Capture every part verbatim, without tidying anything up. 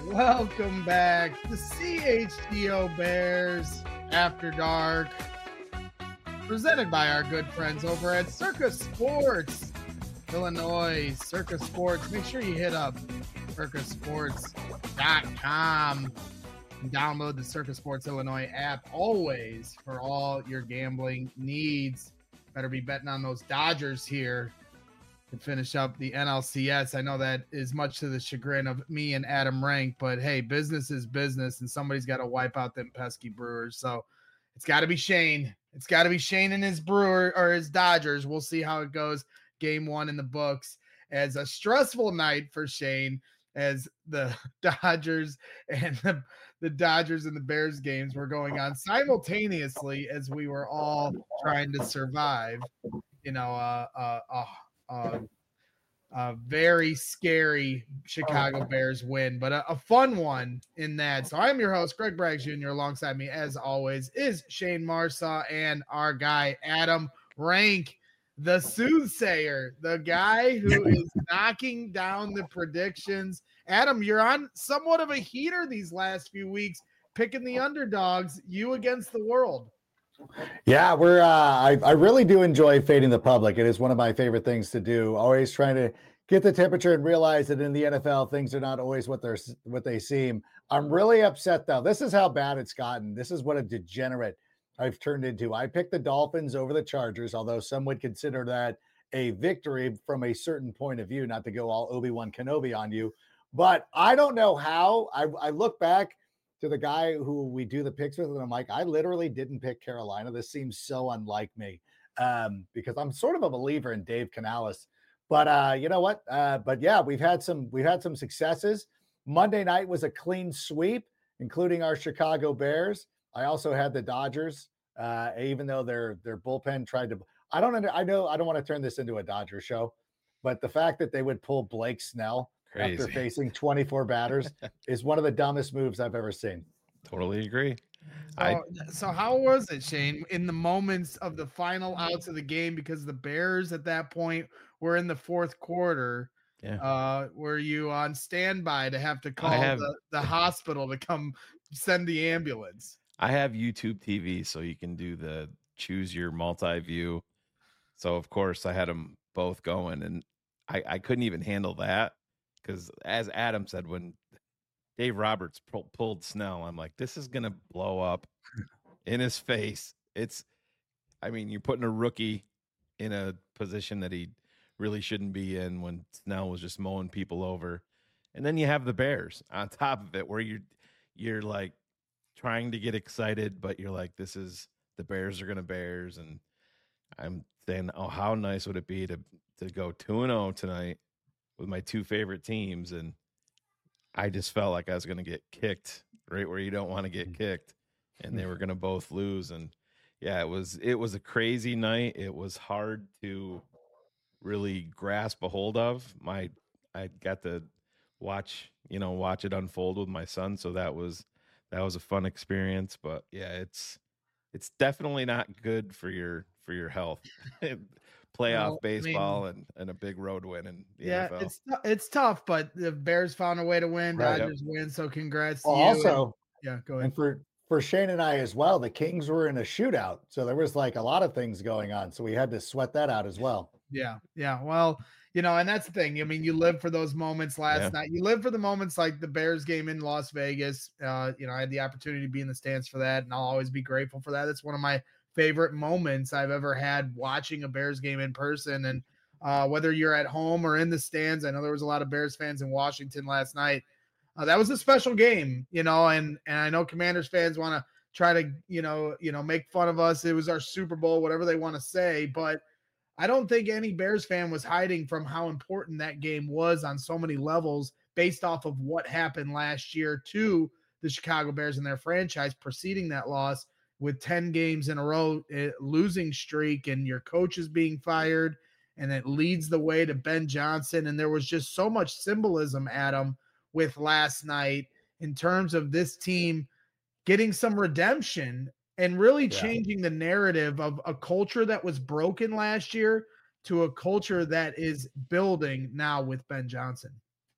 Welcome back to C H G O Bears After Dark, presented by our good friends over at Circus Sports, Illinois. Circus Sports, make sure you hit up circus sports dot com and download the Circus Sports Illinois app always for all your gambling needs. Better be betting on those Dodgers here to finish up the N L C S. I know that is much to the chagrin of me and Adam Rank, but hey, business is business, and somebody's got to wipe out them pesky Brewers. So it's got to be Shane. It's got to be Shane and his Brewer or his Dodgers. We'll see how it goes. Game one in the books as a stressful night for Shane, as the Dodgers and the, the Dodgers and the Bears games were going on simultaneously as we were all trying to survive. You know, uh, uh, uh Uh, a very scary Chicago Bears win, but a, a fun one in that. So I'm your host, Greg Braggs Junior Alongside me, as always, is Shane Marsaw and our guy, Adam Rank, the soothsayer, the guy who is knocking down the predictions. Adam, you're on somewhat of a heater these last few weeks, picking the underdogs, you against the world. Yeah, we're. Uh, I I really do enjoy fading the public. It is one of my favorite things to do. Always trying to get the temperature and realize that in the N F L things are not always what they're what they seem. I'm really upset though. This is how bad it's gotten. This is what a degenerate I've turned into. I picked the Dolphins over the Chargers, although some would consider that a victory from a certain point of view. Not to go all Obi-Wan Kenobi on you, but I don't know how. I I look back to the guy who we do the picks with, and I'm like, I literally didn't pick Carolina. This seems so unlike me um, because I'm sort of a believer in Dave Canales. But uh, you know what? Uh, but yeah, we've had some we've had some successes. Monday night was a clean sweep, including our Chicago Bears. I also had the Dodgers, uh, even though their their bullpen tried to. I don't. I know. I don't want to turn this into a Dodger show, but the fact that they would pull Blake Snell Crazy. After facing twenty-four batters is one of the dumbest moves I've ever seen. Totally agree. So, I, so how was it, Shane, in the moments of the final outs of the game, because the Bears at that point were in the fourth quarter? Yeah. Uh, were you on standby to have to call have, the, the hospital to come send the ambulance? I have YouTube T V, so you can do the choose your multi-view. So, of course, I had them both going, and I, I couldn't even handle that. Because as Adam said, when Dave Roberts pull, pulled Snell, I'm like, this is going to blow up in his face. It's, I mean, you're putting a rookie in a position that he really shouldn't be in when Snell was just mowing people over. And then you have the Bears on top of it where you're, you're like trying to get excited, but you're like, this is, the Bears are going to Bears. And I'm saying, oh, how nice would it be to, to go two and oh tonight with my two favorite teams, and I just felt like I was going to get kicked right where you don't want to get kicked, and they were going to both lose. And yeah, it was it was a crazy night. It was hard to really grasp a hold of. My I got to watch you know watch it unfold with my son, so that was that was a fun experience. But yeah, it's it's definitely not good for your for your health. Playoff well, baseball I mean, and, and a big road win in the yeah, N F L. it's it's tough, but the Bears found a way to win. Right, Dodgers yep. win, so congrats well, to you. Also, and, yeah, go ahead. And for for Shane and I as well, the Kings were in a shootout, so there was like a lot of things going on, so we had to sweat that out as well. Yeah, yeah. Well, you know, and that's the thing. I mean, you live for those moments last yeah. night. You live for the moments like the Bears game in Las Vegas. Uh, you know, I had the opportunity to be in the stands for that, and I'll always be grateful for that. It's one of my favorite moments I've ever had watching a Bears game in person. And uh, whether you're at home or in the stands, I know there was a lot of Bears fans in Washington last night. Uh, that was a special game, you know, and, and I know Commanders fans want to try to, you know, you know, make fun of us. It was our Super Bowl, whatever they want to say, but I don't think any Bears fan was hiding from how important that game was on so many levels based off of what happened last year to the Chicago Bears and their franchise preceding that loss, with ten games in a row, uh, losing streak, and your coach is being fired, and it leads the way to Ben Johnson. And there was just so much symbolism, Adam, with last night in terms of this team getting some redemption and really yeah. changing the narrative of a culture that was broken last year to a culture that is building now with Ben Johnson.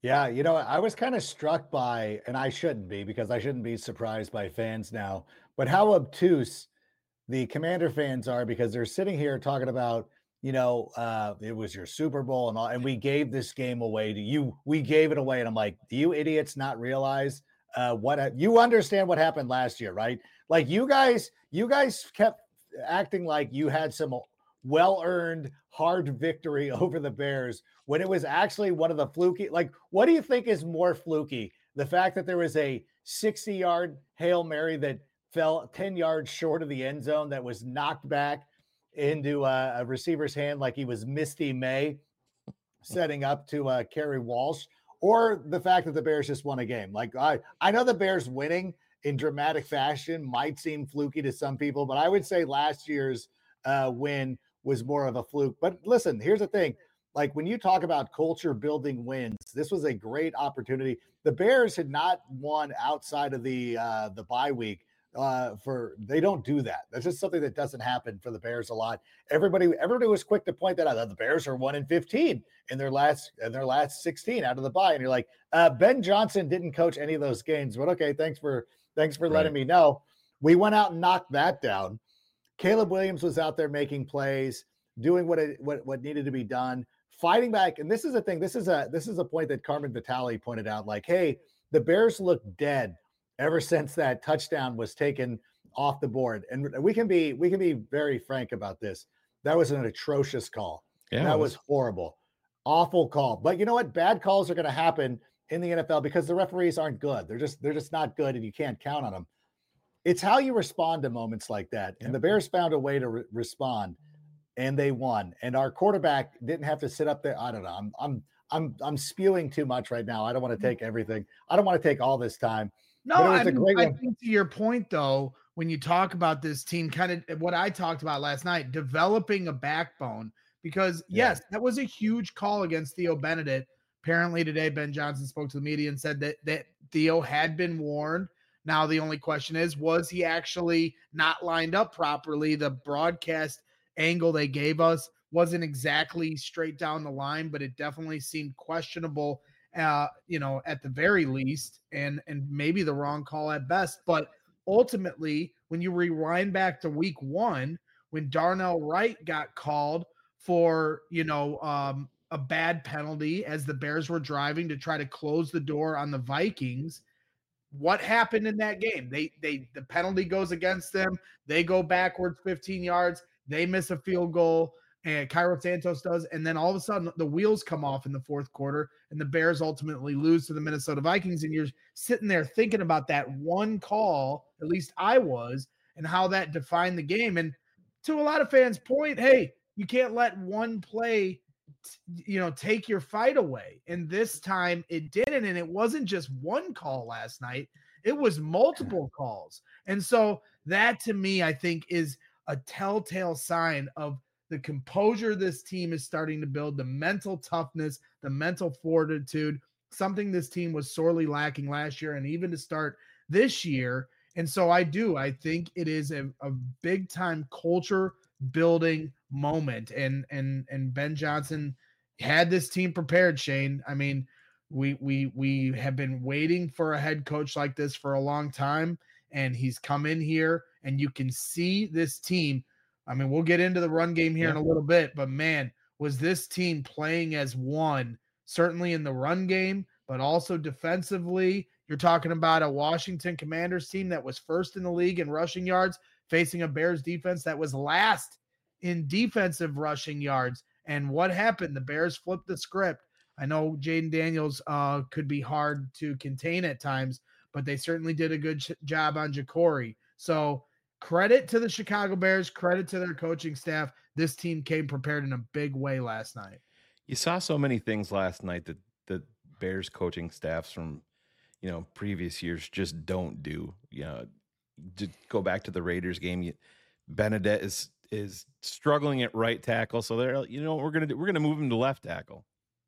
Yeah, you know, I was kind of struck by, and I shouldn't be because I shouldn't be surprised by fans now, but how obtuse the Commander fans are because they're sitting here talking about, you know, uh, it was your Super Bowl and all, and we gave this game away to you. We gave it away. And I'm like, do you idiots not realize uh, what you understand what happened last year, right? Like you guys, you guys kept acting like you had some well-earned hard victory over the Bears when it was actually one of the fluky. Like, what do you think is more fluky? The fact that there was a sixty-yard Hail Mary that fell ten yards short of the end zone that was knocked back into a, a receiver's hand like he was Misty May setting up to uh, carry Walsh, or the fact that the Bears just won a game. Like I, I know the Bears winning in dramatic fashion might seem fluky to some people, but I would say last year's uh, win was more of a fluke. But listen, here's the thing. Like when you talk about culture building wins, this was a great opportunity. The Bears had not won outside of the uh, the bye week. Uh, for they don't do that. That's just something that doesn't happen for the Bears a lot. Everybody, everybody was quick to point that out. The Bears are one and fifteen in their last in their last sixteen out of the bye, and you're like, uh, Ben Johnson didn't coach any of those games, but okay, thanks for thanks for letting right. me know. We went out and knocked that down. Caleb Williams was out there making plays, doing what it what what needed to be done, fighting back. And this is a thing. This is a this is a point that Carmen Vitale pointed out. Like, hey, the Bears look dead ever since that touchdown was taken off the board. And we can be we can be very frank about this. That was an atrocious call. Yeah, that was horrible. Awful call. But you know what? Bad calls are going to happen in the N F L because the referees aren't good. They're just they're just not good, and you can't count on them. It's how you respond to moments like that. And yep. the Bears found a way to re- respond, and they won. And our quarterback didn't have to sit up there. I don't know. I'm I'm I'm I'm spewing too much right now. I don't want to take everything. I don't want to take all this time. No, I, mean, I think to your point, though, when you talk about this team, kind of what I talked about last night, developing a backbone, because, yes, yeah. that was a huge call against Theo Benedict. Apparently today, Ben Johnson spoke to the media and said that, that Theo had been warned. Now, the only question is, was he actually not lined up properly? The broadcast angle they gave us wasn't exactly straight down the line, but it definitely seemed questionable. Uh, you know, at the very least, and and maybe the wrong call at best. But ultimately, when you rewind back to week one, when Darnell Wright got called for, you know, um, a bad penalty as the Bears were driving to try to close the door on the Vikings, what happened in that game? They they the penalty goes against them. They go backwards fifteen yards. They miss a field goal. And Cairo Santos does, and then all of a sudden the wheels come off in the fourth quarter, and the Bears ultimately lose to the Minnesota Vikings. And you're sitting there thinking about that one call, at least I was, and how that defined the game. And to a lot of fans' point, hey, you can't let one play, you know, take your fight away. And this time it didn't, and it wasn't just one call last night; it was multiple calls. And so that, to me, I think is a telltale sign of the composure this team is starting to build, the mental toughness, the mental fortitude, something this team was sorely lacking last year and even to start this year. And so I do, I think it is a, a big time culture building moment. And, and, and Ben Johnson had this team prepared, Shane. I mean, we, we, we have been waiting for a head coach like this for a long time, and he's come in here and you can see this team. I mean, we'll get into the run game here yeah. in a little bit, but man, was this team playing as one, certainly in the run game, but also defensively. You're talking about a Washington Commanders team that was first in the league in rushing yards, facing a Bears defense that was last in defensive rushing yards. And what happened? The Bears flipped the script. I know Jaden Daniels uh, could be hard to contain at times, but they certainly did a good ch- job on Jacory. So, credit to the Chicago Bears, credit to their coaching staff. This team came prepared in a big way last night. You saw so many things last night that the Bears coaching staffs from, you know, previous years just don't do. You know, to go back to the Raiders game, you, Benedict is is struggling at right tackle, so they're, you know, we're gonna do, we're gonna move him to left tackle.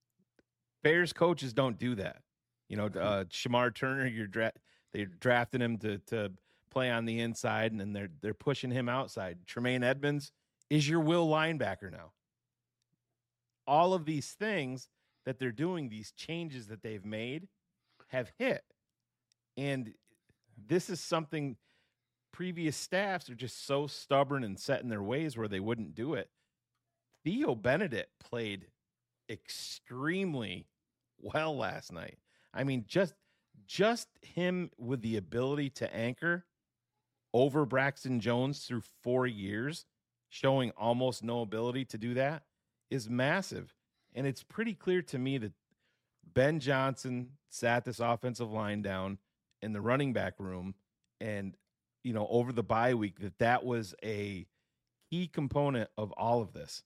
Bears coaches don't do that. You know, uh, Shamar Turner, you're dra- they're drafting him to to. play on the inside, and then they're they're pushing him outside. Tremaine Edmonds is your will linebacker now. All of these things that they're doing, these changes that they've made, have hit. And this is something previous staffs are just so stubborn and set in their ways where they wouldn't do it. Theo Benedict played extremely well last night. I mean, just just him with the ability to anchor over Braxton Jones through four years, showing almost no ability to do that, is massive. And it's pretty clear to me that Ben Johnson sat this offensive line down in the running back room, and, you know, over the bye week, that that was a key component of all of this.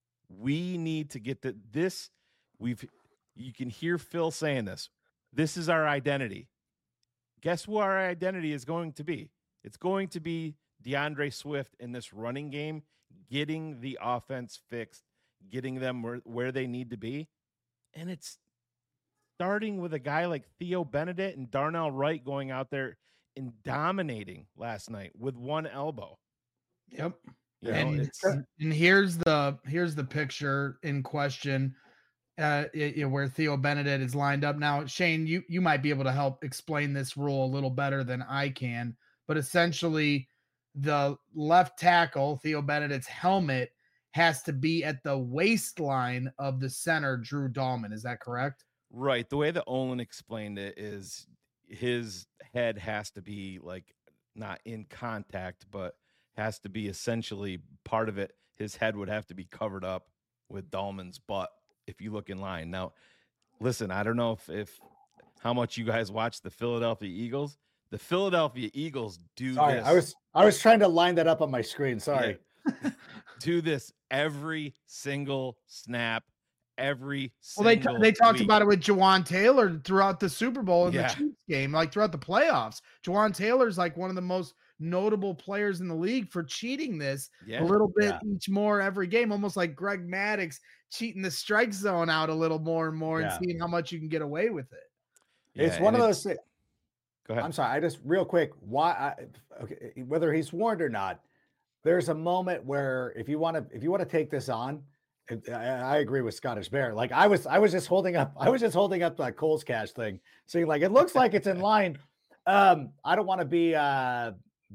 We need to get the, this. We've, you can hear Phil saying this. This is our identity. Guess who our identity is going to be? It's going to be DeAndre Swift in this running game, getting the offense fixed, getting them where, where they need to be. And it's starting with a guy like Theo Benedict and Darnell Wright going out there and dominating last night with one elbow. Yep. You know, and, it's, and here's the here's the picture in question, uh, it, it, where Theo Benedict is lined up. Now, Shane, you you might be able to help explain this rule a little better than I can, but essentially, the left tackle, Theo Benedict's helmet, has to be at the waistline of the center, Drew Dahlman. Is that correct? Right. The way that Olin explained it is his head has to be like not in contact, but has to be essentially part of it. His head would have to be covered up with Dahlman's butt if you look in line. Now, listen, I don't know if, if how much you guys watch the Philadelphia Eagles. The Philadelphia Eagles do Sorry, this. I was I was trying to line that up on my screen. Sorry. Yeah. Do this every single snap. Every well, they single they talked week. about it with Jawan Taylor throughout the Super Bowl and Yeah. the Chiefs game, like throughout the playoffs. Jawan Taylor's like one of the most notable players in the league for cheating this Yeah. a little bit Yeah. each more every game, almost like Greg Maddux cheating the strike zone out a little more and more Yeah. and seeing how much you can get away with it. It's Yeah, one of and those thi- Go ahead. I'm sorry. I just real quick. Why? I, okay, whether he's warned or not, there's a moment where if you want to, if you want to take this on, I, I agree with Scottish Bear. Like I was, I was just holding up, I was just holding up that Coles Cash thing, saying like it looks like it's in line. Um, I don't want to be uh,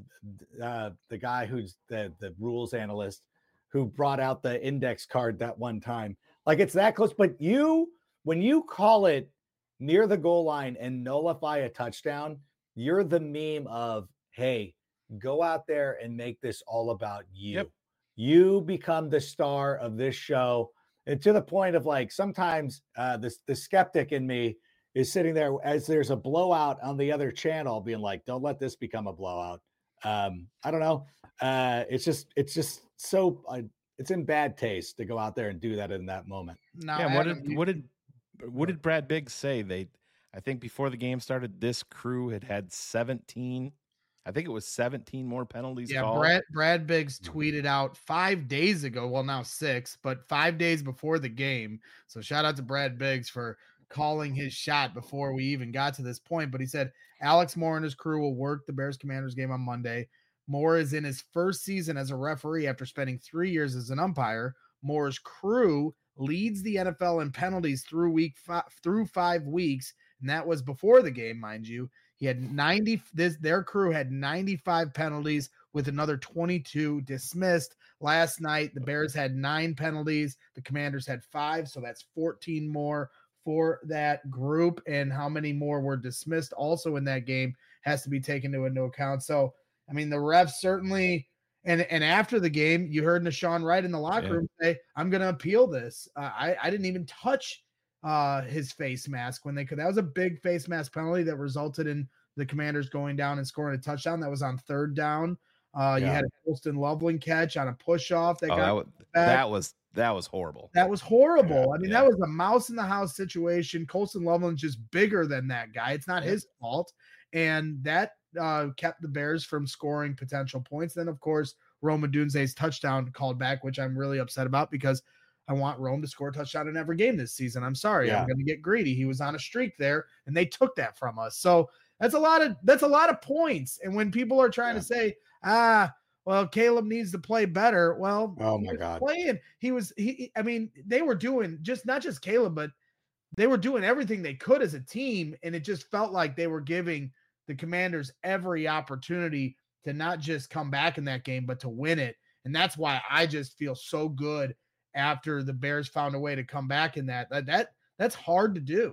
uh, the guy who's the the rules analyst who brought out the index card that one time. Like it's that close, but you when you call it near the goal line and nullify a touchdown, you're the meme of, hey, go out there and make this all about you. Yep. You become the star of this show. And to the point of like, sometimes uh, this, the skeptic in me is sitting there as there's a blowout on the other channel being like, don't let this become a blowout. Um, I don't know. Uh, it's just, it's just so, uh, it's in bad taste to go out there and do that in that moment. Now, yeah. What Adam, did you- what did what did Brad Biggs say? They, I think before the game started, this crew had had seventeen. I think it was seventeen more penalties. Yeah, called. Brad Brad Biggs tweeted out five days ago. Well, now six, but five days before the game. So shout out to Brad Biggs for calling his shot before we even got to this point. But he said Alex Moore and his crew will work the Bears Commanders game on Monday. Moore is in his first season as a referee after spending three years as an umpire. Moore's crew leads the N F L in penalties through week five, through five weeks, and that was before the game, mind you. He had ninety. This their crew had ninety-five penalties, with another twenty-two dismissed. Last night, the Bears had nine penalties. The Commanders had five, so that's fourteen more for that group. And how many more were dismissed also in that game has to be taken into account. So, I mean, the refs certainly. And and after the game, you heard Nashawn Wright in the locker Yeah. room say, "I'm going to appeal this. Uh, I I didn't even touch uh, his face mask when they could." That was a big face mask penalty that resulted in the Commanders going down and scoring a touchdown. That was on third down. Uh, You Yeah. had a Colston Loveland catch on a push off that Oh, got that, was, back. that was that was horrible. That was horrible. Yeah, I mean, yeah. that was a mouse in the house situation. Colston Loveland's just bigger than that guy. It's not Yeah. his fault. And that uh, kept the Bears from scoring potential points. Then, of course, Rome Odunze's touchdown called back, which I'm really upset about because I want Rome to score a touchdown in every game this season. I'm sorry. Yeah. I'm going to get greedy. He was on a streak there, and they took that from us. So that's a lot of that's a lot of points. And when people are trying Yeah. to say, ah, well, Caleb needs to play better. Well, Oh he my was God. playing. He was he. I mean, they were doing just not just Caleb, but they were doing everything they could as a team, and it just felt like they were giving the Commanders every opportunity to not just come back in that game, but to win it. And that's why I just feel so good after the Bears found a way to come back in that. That, that that's hard to do.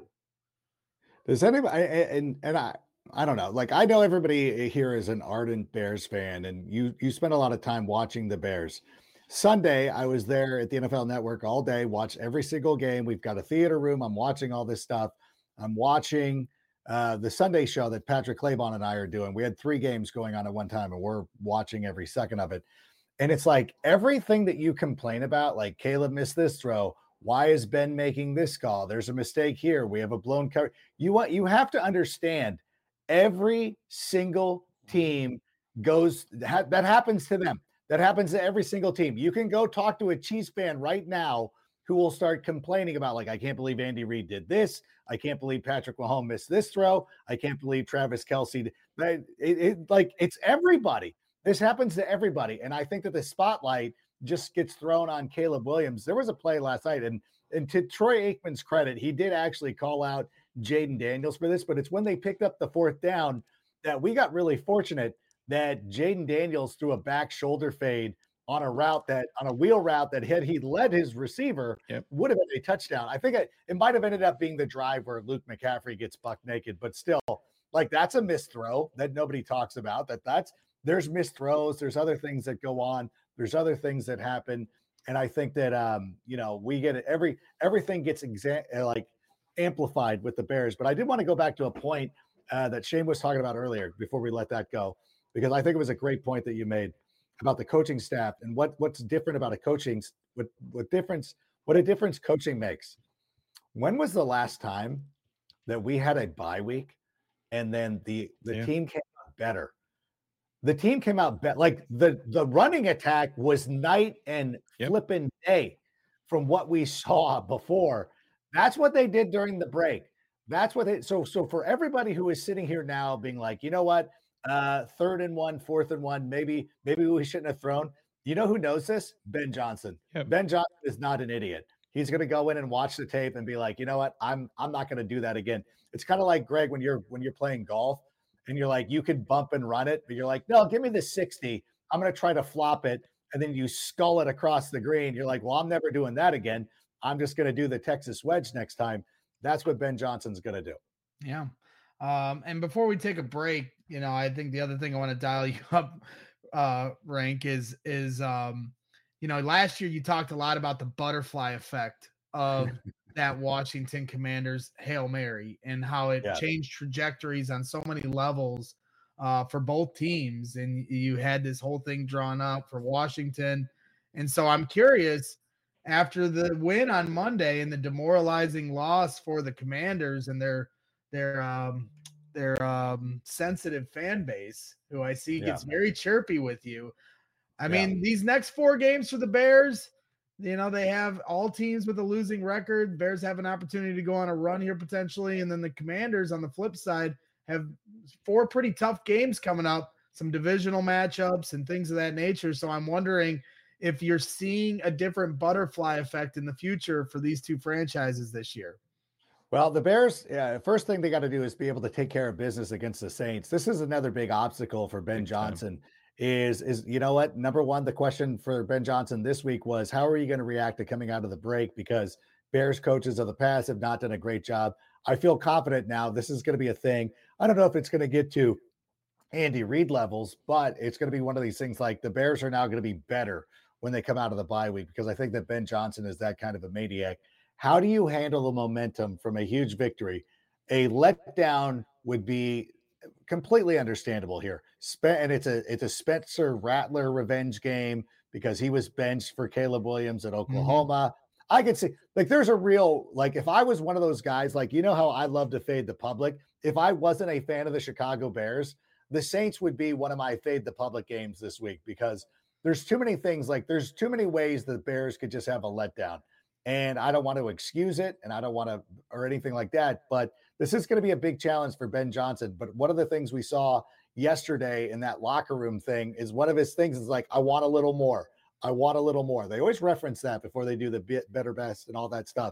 Does anybody, and and I I don't know, like I know everybody here is an ardent Bears fan, and you you spend a lot of time watching the Bears. Sunday, I was there at the N F L Network all day, watched every single game. We've got a theater room. I'm watching all this stuff. I'm watching uh, the Sunday show that Patrick Claybon and I are doing. We had three games going on at one time, and we're watching every second of it. And it's like everything that you complain about, like Caleb missed this throw. Why is Ben making this call? There's a mistake here. We have a blown cover. You want you have to understand every single team goes that happens to them. That happens to every single team. You can go talk to a Chiefs fan right now who will start complaining about, like, I can't believe Andy Reid did this. I can't believe Patrick Mahomes missed this throw. I can't believe Travis Kelce. It, it, it, like, it's everybody. This happens to everybody. And I think that the spotlight just gets thrown on Caleb Williams. There was a play last night, and, and to Troy Aikman's credit, he did actually call out Jaden Daniels for this, but it's when they picked up the fourth down that we got really fortunate that Jaden Daniels threw a back shoulder fade on a route that on a wheel route that had he led his receiver yep. would have been a touchdown. I think it, it might have ended up being the drive where Luke McCaffrey gets buck naked, but still, like, that's a missed throw that nobody talks about. That that's there's missed throws. There's other things that go on. There's other things that happen, and I think that um, you know we get it every everything gets exa- like amplified with the Bears. But I did want to go back to a point uh, that Shane was talking about earlier before we let that go, because I think it was a great point that you made about the coaching staff and what what's different about a coaching, what what difference, what a difference coaching makes. When was the last time that we had a bye week and then the, the yeah. team came out better? The team came out better. Like the, the running attack was night and yep. flipping day from what we saw before. That's what they did during the break. That's what they, so, so for everybody who is sitting here now being like, you know what, Uh, third and one, fourth and one. Maybe, maybe we shouldn't have thrown. You know who knows this? Ben Johnson. Yep. Ben Johnson is not an idiot. He's going to go in and watch the tape and be like, you know what? I'm, I'm not going to do that again. It's kind of like Greg when you're when you're playing golf and you're like, you can bump and run it, but you're like, no, give me the sixty. I'm going to try to flop it, and then you skull it across the green. You're like, well, I'm never doing that again. I'm just going to do the Texas wedge next time. That's what Ben Johnson's going to do. Yeah. Um, and before we take a break, you know, I think the other thing I want to dial you up, uh, Rank is, is, um, you know, last year you talked a lot about the butterfly effect of that Washington Commanders Hail Mary and how it yeah. changed trajectories on so many levels, uh, for both teams. And you had this whole thing drawn up for Washington. And so I'm curious, after the win on Monday and the demoralizing loss for the Commanders and their, their um their um sensitive fan base, who I see gets yeah. very chirpy with you. I yeah. mean, these next four games for the Bears, you know, they have all teams with a losing record. Bears have an opportunity to go on a run here potentially, and then the Commanders on the flip side have four pretty tough games coming up, some divisional matchups and things of that nature. So I'm wondering if you're seeing a different butterfly effect in the future for these two franchises this year. Well, the Bears, yeah, first thing they got to do is be able to take care of business against the Saints. This is another big obstacle for Ben Johnson. Is, is you know what? Number one, the question for Ben Johnson this week was, how are you going to react to coming out of the break? Because Bears coaches of the past have not done a great job. I feel confident now this is going to be a thing. I don't know if it's going to get to Andy Reid levels, but it's going to be one of these things like the Bears are now going to be better when they come out of the bye week, because I think that Ben Johnson is that kind of a maniac. How do you handle the momentum from a huge victory? A letdown would be completely understandable here. And it's a it's a Spencer Rattler revenge game because he was benched for Caleb Williams at Oklahoma. Mm-hmm. I could see, like, there's a real, like, if I was one of those guys, like, you know how I love to fade the public. If I wasn't a fan of the Chicago Bears, the Saints would be one of my fade the public games this week, because there's too many things, like there's too many ways the Bears could just have a letdown. And I don't want to excuse it, and I don't want to, or anything like that. But this is going to be a big challenge for Ben Johnson. But one of the things we saw yesterday in that locker room thing is one of his things is like, I want a little more. I want a little more. They always reference that before they do the bit better best and all that stuff.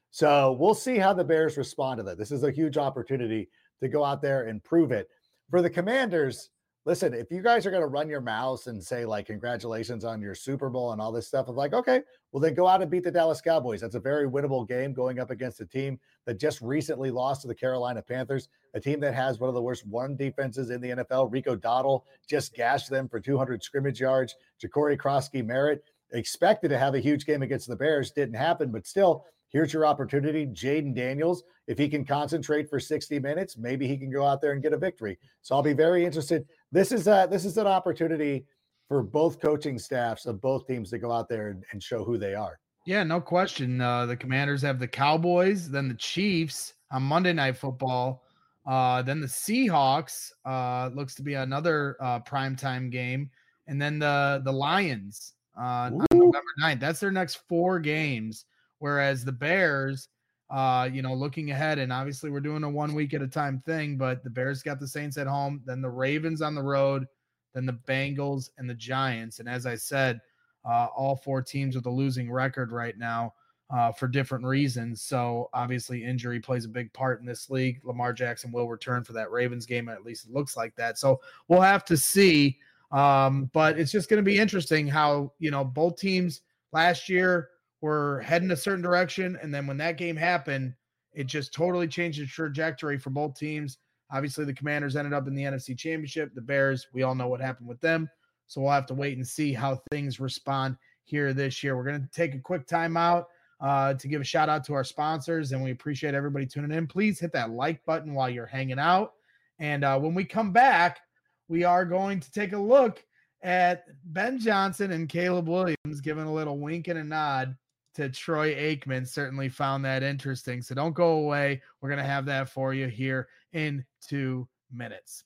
So we'll see how the Bears respond to that. This is a huge opportunity to go out there and prove it. For the Commanders, listen, if you guys are going to run your mouths and say, like, congratulations on your Super Bowl and all this stuff, I'm like, okay, well, then go out and beat the Dallas Cowboys. That's a very winnable game going up against a team that just recently lost to the Carolina Panthers, a team that has one of the worst run defenses in the N F L. Rico Dowdle just gashed them for two hundred scrimmage yards. Ja'Cory Krosky Merritt expected to have a huge game against the Bears. Didn't happen, but still, here's your opportunity. Jaden Daniels, if he can concentrate for sixty minutes, maybe he can go out there and get a victory. So I'll be very interested. This is a, this is an opportunity for both coaching staffs of both teams to go out there and, and show who they are. Yeah, no question. Uh, the Commanders have the Cowboys, then the Chiefs on Monday Night Football, uh, then the Seahawks. Uh, looks to be another uh, primetime game, and then the the Lions uh, on November ninth. That's their next four games. Whereas the Bears, uh, you know, looking ahead, and obviously we're doing a one week at a time thing, but the Bears got the Saints at home, then the Ravens on the road, then the Bengals and the Giants. And as I said, uh, all four teams with a losing record right now uh, for different reasons. So obviously injury plays a big part in this league. Lamar Jackson will return for that Ravens game. At least it looks like that. So we'll have to see. Um, but it's just going to be interesting how, you know, both teams last year were heading a certain direction. And then when that game happened, it just totally changed the trajectory for both teams. Obviously, the Commanders ended up in the N F C Championship. The Bears, we all know what happened with them. So we'll have to wait and see how things respond here this year. We're going to take a quick timeout uh, to give a shout out to our sponsors, and we appreciate everybody tuning in. Please hit that like button while you're hanging out. And uh, when we come back, we are going to take a look at Ben Johnson and Caleb Williams giving a little wink and a nod to Troy Aikman. Certainly found that interesting. So don't go away. We're going to have that for you here in two minutes.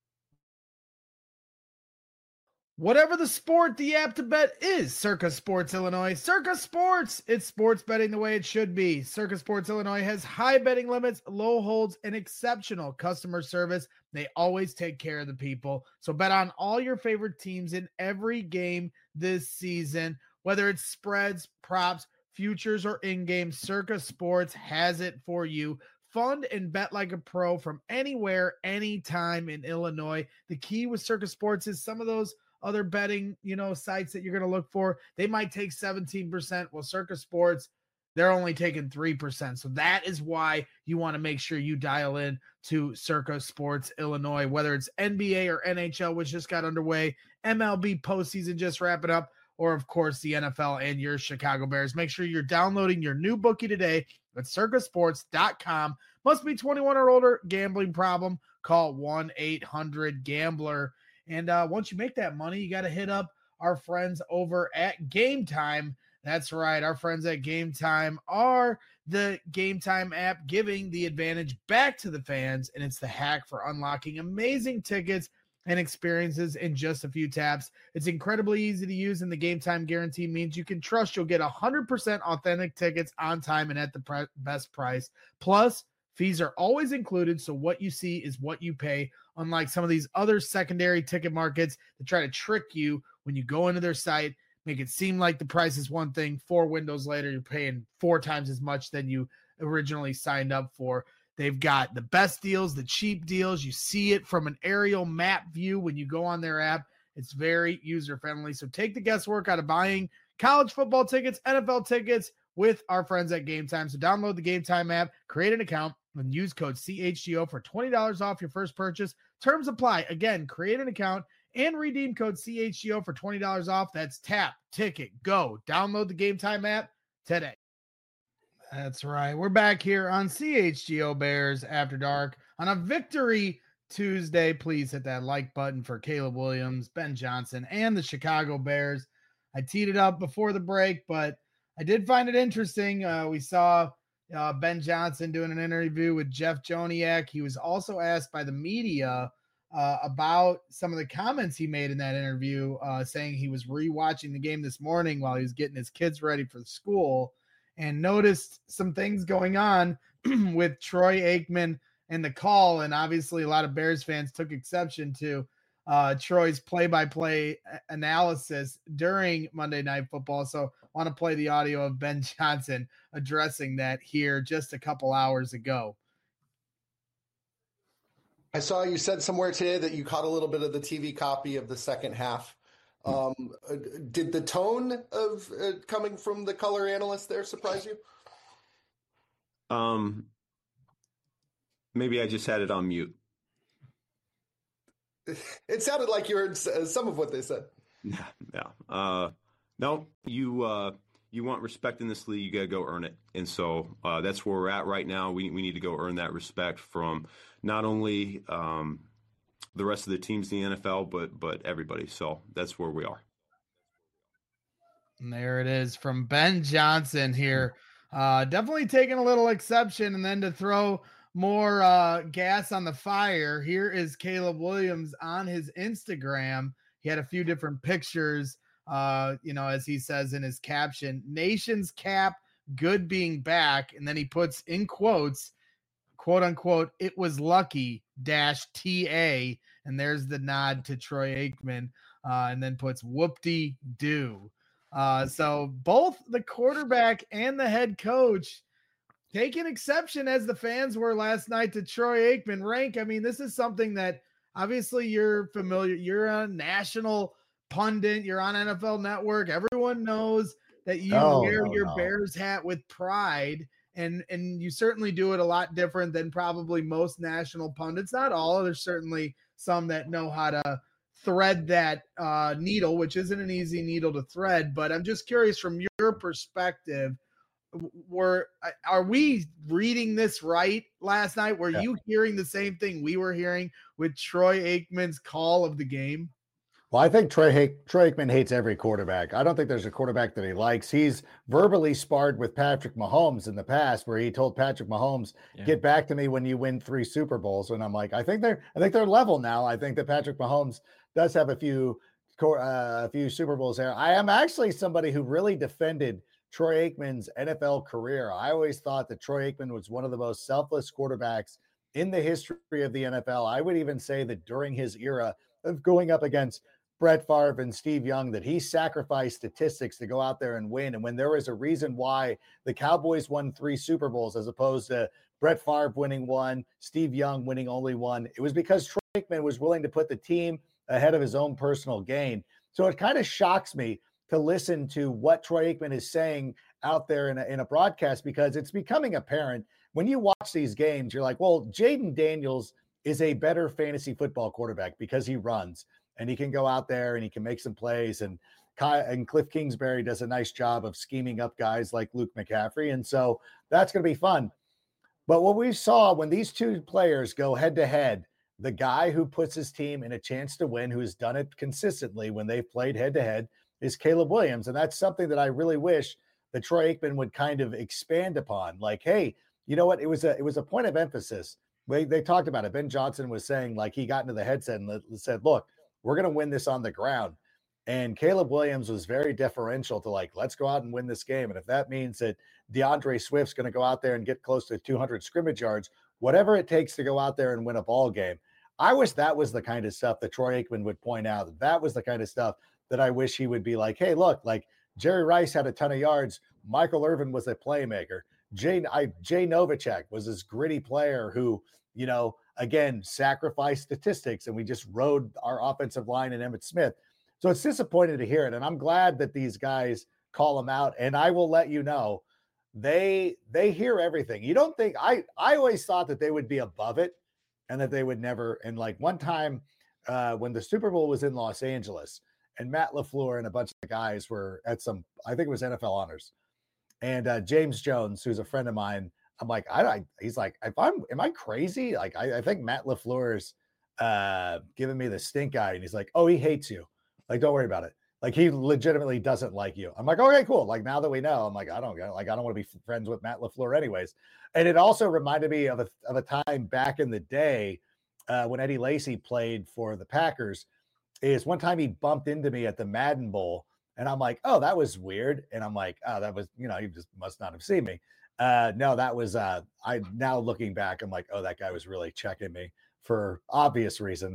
Whatever the sport, the app to bet is Circa Sports Illinois. Circa Sports, it's sports betting the way it should be. Circa Sports Illinois has high betting limits, low holds, and exceptional customer service. They always take care of the people. So bet on all your favorite teams in every game this season, whether it's spreads, props, futures, or in-game. Circa Sports has it for you. Fund and bet like a pro from anywhere, anytime in Illinois. The key with Circa Sports is some of those other betting, you know, sites that you're going to look for, they might take seventeen percent. Well, Circa Sports, they're only taking three percent. So that is why you want to make sure you dial in to Circa Sports Illinois, whether it's N B A or N H L, which just got underway, M L B postseason just wrapping up, or of course the N F L and your Chicago Bears. Make sure you're downloading your new bookie today at circa sports dot com. Must be twenty-one or older. Gambling problem? Call one eight hundred gambler. And uh, once you make that money, you got to hit up our friends over at Game Time. That's right. Our friends at Game Time are the Game Time app, giving the advantage back to the fans. And it's the hack for unlocking amazing tickets and experiences in just a few taps. It's incredibly easy to use, and the Game Time guarantee means you can trust you'll get one hundred percent authentic tickets on time and at the pre- best price. Plus, fees are always included, so what you see is what you pay, unlike some of these other secondary ticket markets that try to trick you when you go into their site, make it seem like the price is one thing. Four windows later, you're paying four times as much than you originally signed up for. They've got the best deals, the cheap deals. You see it from an aerial map view when you go on their app. It's very user-friendly. So take the guesswork out of buying college football tickets, N F L tickets with our friends at Game Time. So download the Game Time app, create an account, and use code C H G O for twenty dollars off your first purchase. Terms apply. Again, create an account and redeem code C H G O for twenty dollars off. That's tap, ticket, go. Download the Game Time app today. That's right. We're back here on C H G O Bears After Dark on a Victory Tuesday. Please hit that like button for Caleb Williams, Ben Johnson, and the Chicago Bears. I teed it up before the break, but I did find it interesting. Uh, we saw uh, Ben Johnson doing an interview with Jeff Joniak. He was also asked by the media uh, about some of the comments he made in that interview, uh, saying he was rewatching the game this morning while he was getting his kids ready for school and noticed some things going on with Troy Aikman and the call. And obviously a lot of Bears fans took exception to uh, Troy's play-by-play analysis during Monday Night Football. So I want to play the audio of Ben Johnson addressing that here just a couple hours ago. I saw you said somewhere today that you caught a little bit of the T V copy of the second half. Um, uh, did the tone of uh, coming from the color analyst there surprise you? Um, maybe I just had it on mute. It sounded like you heard some of what they said. Yeah, yeah. Uh, no, you uh, you want respect in this league, you got to go earn it. And so uh, that's where we're at right now. We we need to go earn that respect from not only um, the rest of the teams in the N F L, but but everybody. So that's where we are. And there it is from Ben Johnson here. Uh, definitely taking a little exception, and then to throw more uh, gas on the fire, here is Caleb Williams on his Instagram. He had a few different pictures, uh, you know, as he says in his caption, Nation's cap, good being back. And then he puts in quotes, quote unquote, it was lucky dash T A. And there's the nod to Troy Aikman, uh, and then puts whoop-de-doo. Uh, so both the quarterback and the head coach taking exception, as the fans were last night, to Troy Aikman. Rank, I mean, this is something that obviously you're familiar. You're a national pundit. You're on N F L Network. Everyone knows that you Oh, wear no, your no. Bears hat with pride, and and you certainly do it a lot different than probably most national pundits. Not all. There's certainly some that know how to thread that uh, needle, which isn't an easy needle to thread. But I'm just curious, from your perspective, were are we reading this right last night? Were Yeah. you hearing the same thing we were hearing with Troy Aikman's call of the game? Well, I think Troy, ha- Troy Aikman hates every quarterback. I don't think there's a quarterback that he likes. He's verbally sparred with Patrick Mahomes in the past, where he told Patrick Mahomes, Yeah. "Get back to me when you win three Super Bowls." And I'm like, I think they're, I think they're level now. I think that Patrick Mahomes does have a few, uh, a few Super Bowls there. I am actually somebody who really defended Troy Aikman's N F L career. I always thought that Troy Aikman was one of the most selfless quarterbacks in the history of the N F L. I would even say that during his era of going up against Brett Favre and Steve Young, that he sacrificed statistics to go out there and win. And when there was a reason why the Cowboys won three Super Bowls as opposed to Brett Favre winning one, Steve Young winning only one, it was because Troy Aikman was willing to put the team ahead of his own personal gain. So it kind of shocks me to listen to what Troy Aikman is saying out there in a, in a broadcast, because it's becoming apparent when you watch these games. You're like, well, Jaden Daniels is a better fantasy football quarterback because he runs and he can go out there and he can make some plays. And and Cliff Kingsbury does a nice job of scheming up guys like Luke McCaffrey. And so that's going to be fun. But what we saw when these two players go head to head, the guy who puts his team in a chance to win, who has done it consistently when they've played head to head, is Caleb Williams. And that's something that I really wish that Troy Aikman would kind of expand upon. Like, hey, you know what? It was a it was a point of emphasis. They, they talked about it. Ben Johnson was saying, like, he got into the headset and said, look, we're going to win this on the ground. And Caleb Williams was very deferential to, like, let's go out and win this game. And if that means that DeAndre Swift's going to go out there and get close to two hundred scrimmage yards, whatever it takes to go out there and win a ball game. I wish that was the kind of stuff that Troy Aikman would point out. That, that was the kind of stuff that I wish he would be like, hey, look, like Jerry Rice had a ton of yards. Michael Irvin was a playmaker. Jay, I, Jay Novacek was this gritty player who, you know, again, sacrificed statistics, and we just rode our offensive line and Emmitt Smith. So it's disappointing to hear it. And I'm glad that these guys call them out. And I will let you know, they they hear everything. You don't think I I always thought that they would be above it and that they would never. And like one time uh, when the Super Bowl was in Los Angeles, and Matt LaFleur and a bunch of guys were at some, I think it was N F L Honors. And uh, James Jones, who's a friend of mine, I'm like, I, I he's like, if I'm, am I crazy? Like, I, I think Matt LaFleur's uh, giving me the stink eye. And he's like, oh, he hates you. Like, don't worry about it. Like, he legitimately doesn't like you. I'm like, okay, cool. Like, now that we know, I'm like, I don't like, I don't want to be friends with Matt LaFleur anyways. And it also reminded me of a, of a time back in the day uh, when Eddie Lacy played for the Packers. Is one time he bumped into me at the Madden Bowl, and I'm like, oh, that was weird. And I'm like, oh, that was, you know, you just must not have seen me. Uh, no, that was, uh, I now looking back, I'm like, oh, that guy was really checking me for obvious reasons.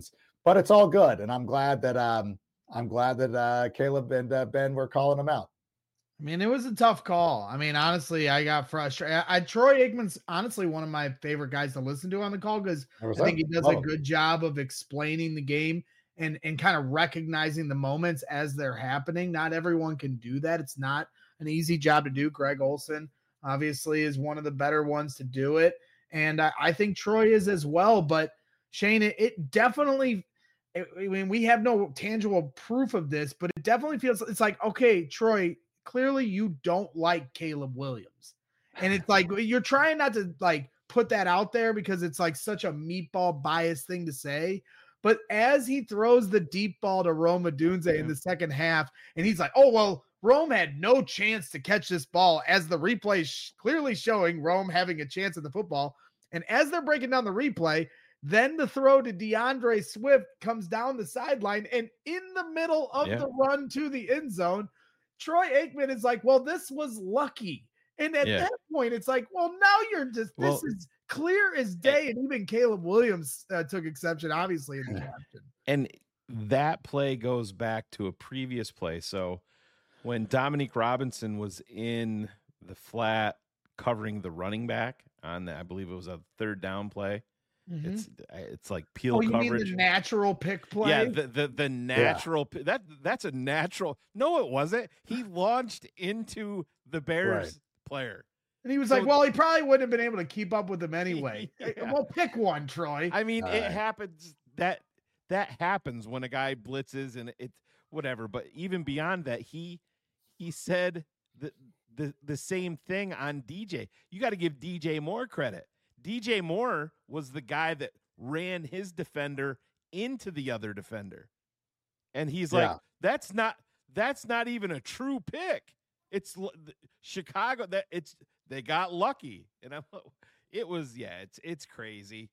but it's all good. And I'm glad that, um, I'm glad that uh, Caleb and uh, Ben were calling him out. I mean, it was a tough call. I mean, honestly, I got frustrated. I, I Troy Aikman's honestly one of my favorite guys to listen to on the call because I think he does a good job of explaining the game and and kind of recognizing the moments as they're happening. Not everyone can do that. It's not an easy job to do. Greg Olsen obviously is one of the better ones to do it, and I, I think Troy is as well. But Shane, it, it definitely. I mean, we have no tangible proof of this, but it definitely feels it's like, okay, Troy, clearly you don't like Caleb Williams. And it's like, you're trying not to like put that out there because it's like such a meatball biased thing to say. But as he throws the deep ball to Rome Odunze yeah. in the second half, and he's like, oh, well, Rome had no chance to catch this ball, as the replay sh- clearly showing Rome having a chance at the football. And as they're breaking down the replay, then the throw to DeAndre Swift comes down the sideline, and in the middle of yeah. the run to the end zone, Troy Aikman is like, well, this was lucky. And at yeah. that point, it's like, well, now you're just, this well, is clear as day. And even Caleb Williams uh, took exception, obviously, in the caption. And that play goes back to a previous play. So when Dominique Robinson was in the flat covering the running back on the, I believe it was a third down play. Mm-hmm. It's it's like peel oh, you coverage. Mean the natural pick play. Yeah, the the, the natural yeah. that that's a natural. No, it wasn't. He launched into the Bears right. player, and he was so, like, "Well, he probably wouldn't have been able to keep up with them anyway." Yeah. Well, pick one, Troy. I mean, All it right. happens that that happens when a guy blitzes and it's whatever. But even beyond that, he he said the the the same thing on D J. You got to give D J Moore credit. D J Moore was the guy that ran his defender into the other defender. And he's like, yeah. that's not, that's not even a true pick. It's Chicago that it's, they got lucky. And I'm, it was, yeah, it's, it's crazy.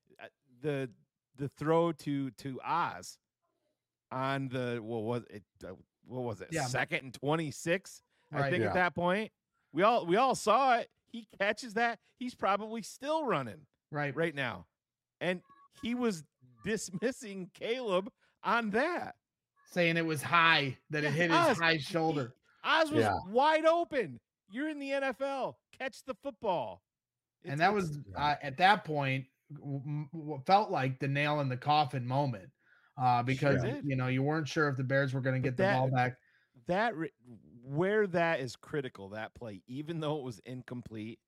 The, the throw to, to Oz on the, what was it? What was it? Yeah. Second and twenty-six. Right, I think yeah. at that point we all, we all saw it. He catches that. He's probably still running right right now. And he was dismissing Caleb on that. Saying it was high, that it hit Oz, his high shoulder. He, Oz was yeah. wide open. You're in the N F L. Catch the football. It's, and that was, uh, at that point, what felt like the nail in the coffin moment. Uh, because, sure you know, you weren't sure if the Bears were going to get the that, ball back. That where that is critical, that play, even though it was incomplete,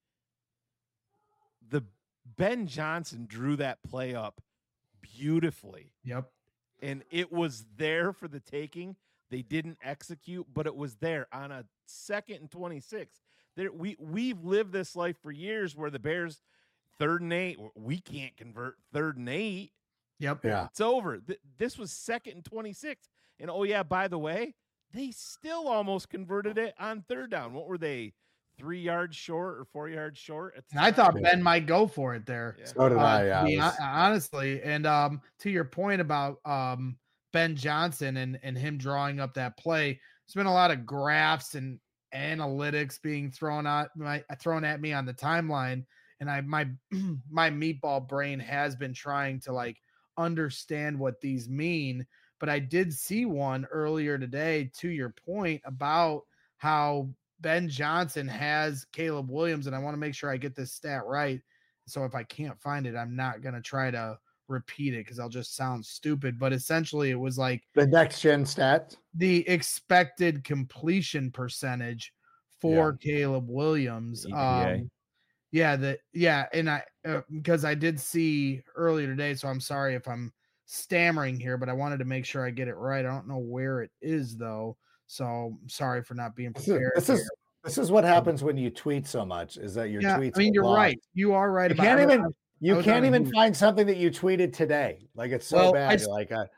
the Ben Johnson drew that play up beautifully. Yep. And it was there for the taking. They didn't execute, but it was there on a second and twenty-six. There, we we've lived this life for years where the Bears third and eight, we can't convert third and eight. Yep. Yeah. It's over. Th- this was second and twenty-six. And oh yeah, by the way, they still almost converted it on third down. What were they? Three yards short or four yards short? And I thought Ben might go for it there. Yeah. So did uh, I, yeah. I was... Honestly. And um, to your point about um, Ben Johnson and, and him drawing up that play, there's been a lot of graphs and analytics being thrown at my thrown at me on the timeline. And I my my meatball brain has been trying to like understand what these mean. But I did see one earlier today, to your point, about how Ben Johnson has Caleb Williams, and I want to make sure I get this stat right. So if I can't find it, I'm not going to try to repeat it because I'll just sound stupid. But essentially, it was like the next gen stat, the expected completion percentage for yeah. Caleb Williams. Um, yeah, the yeah, and I uh, because I did see earlier today, so I'm sorry if I'm stammering here, but I wanted to make sure I get it right. I don't know where it is though. So I'm sorry for not being prepared. This is this is what happens when you tweet so much. Is that your yeah, tweets? I mean, you're lost. right. You are right. You about can't it. even you can't even find something that you tweeted today. Like it's so well, bad. I, you're like, I,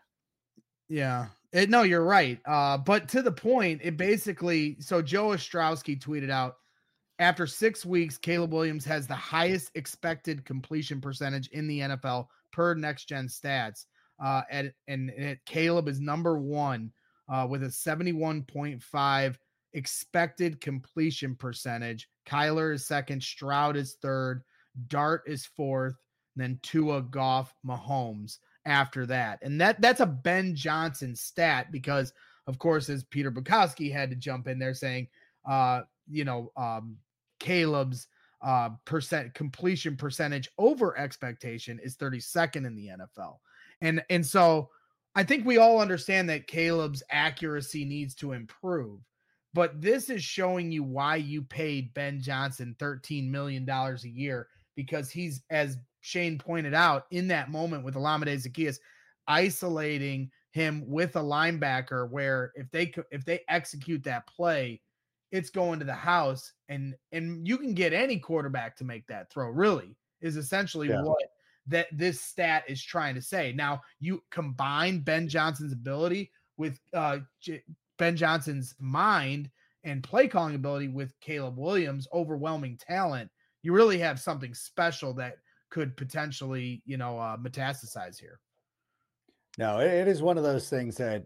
yeah. It, no, you're right. Uh, but to the point, it basically. So Joe Ostrowski tweeted out after six weeks, Caleb Williams has the highest expected completion percentage in the N F L per Next Gen Stats. Uh, and and, and Caleb is number one. Uh, with a seventy-one point five expected completion percentage. Kyler is second. Stroud is third. Dart is fourth. And then Tua, Goff, Mahomes. after that. And that that's a Ben Johnson stat because, of course, as Peter Bukowski had to jump in there saying, uh, you know, um, Caleb's uh, percent completion percentage over expectation is thirty-second in the N F L. And, and so I think we all understand that Caleb's accuracy needs to improve, but this is showing you why you paid Ben Johnson thirteen million dollars a year, because he's, as Shane pointed out, in that moment with Olamide Zaccheaus, isolating him with a linebacker where if they if they execute that play, it's going to the house, and and you can get any quarterback to make that throw, really, is essentially yeah. what that this stat is trying to say. Now, you combine Ben Johnson's ability with uh, J- Ben Johnson's mind and play calling ability with Caleb Williams' overwhelming talent, you really have something special that could potentially, you know, uh, metastasize here. No, it, it is one of those things that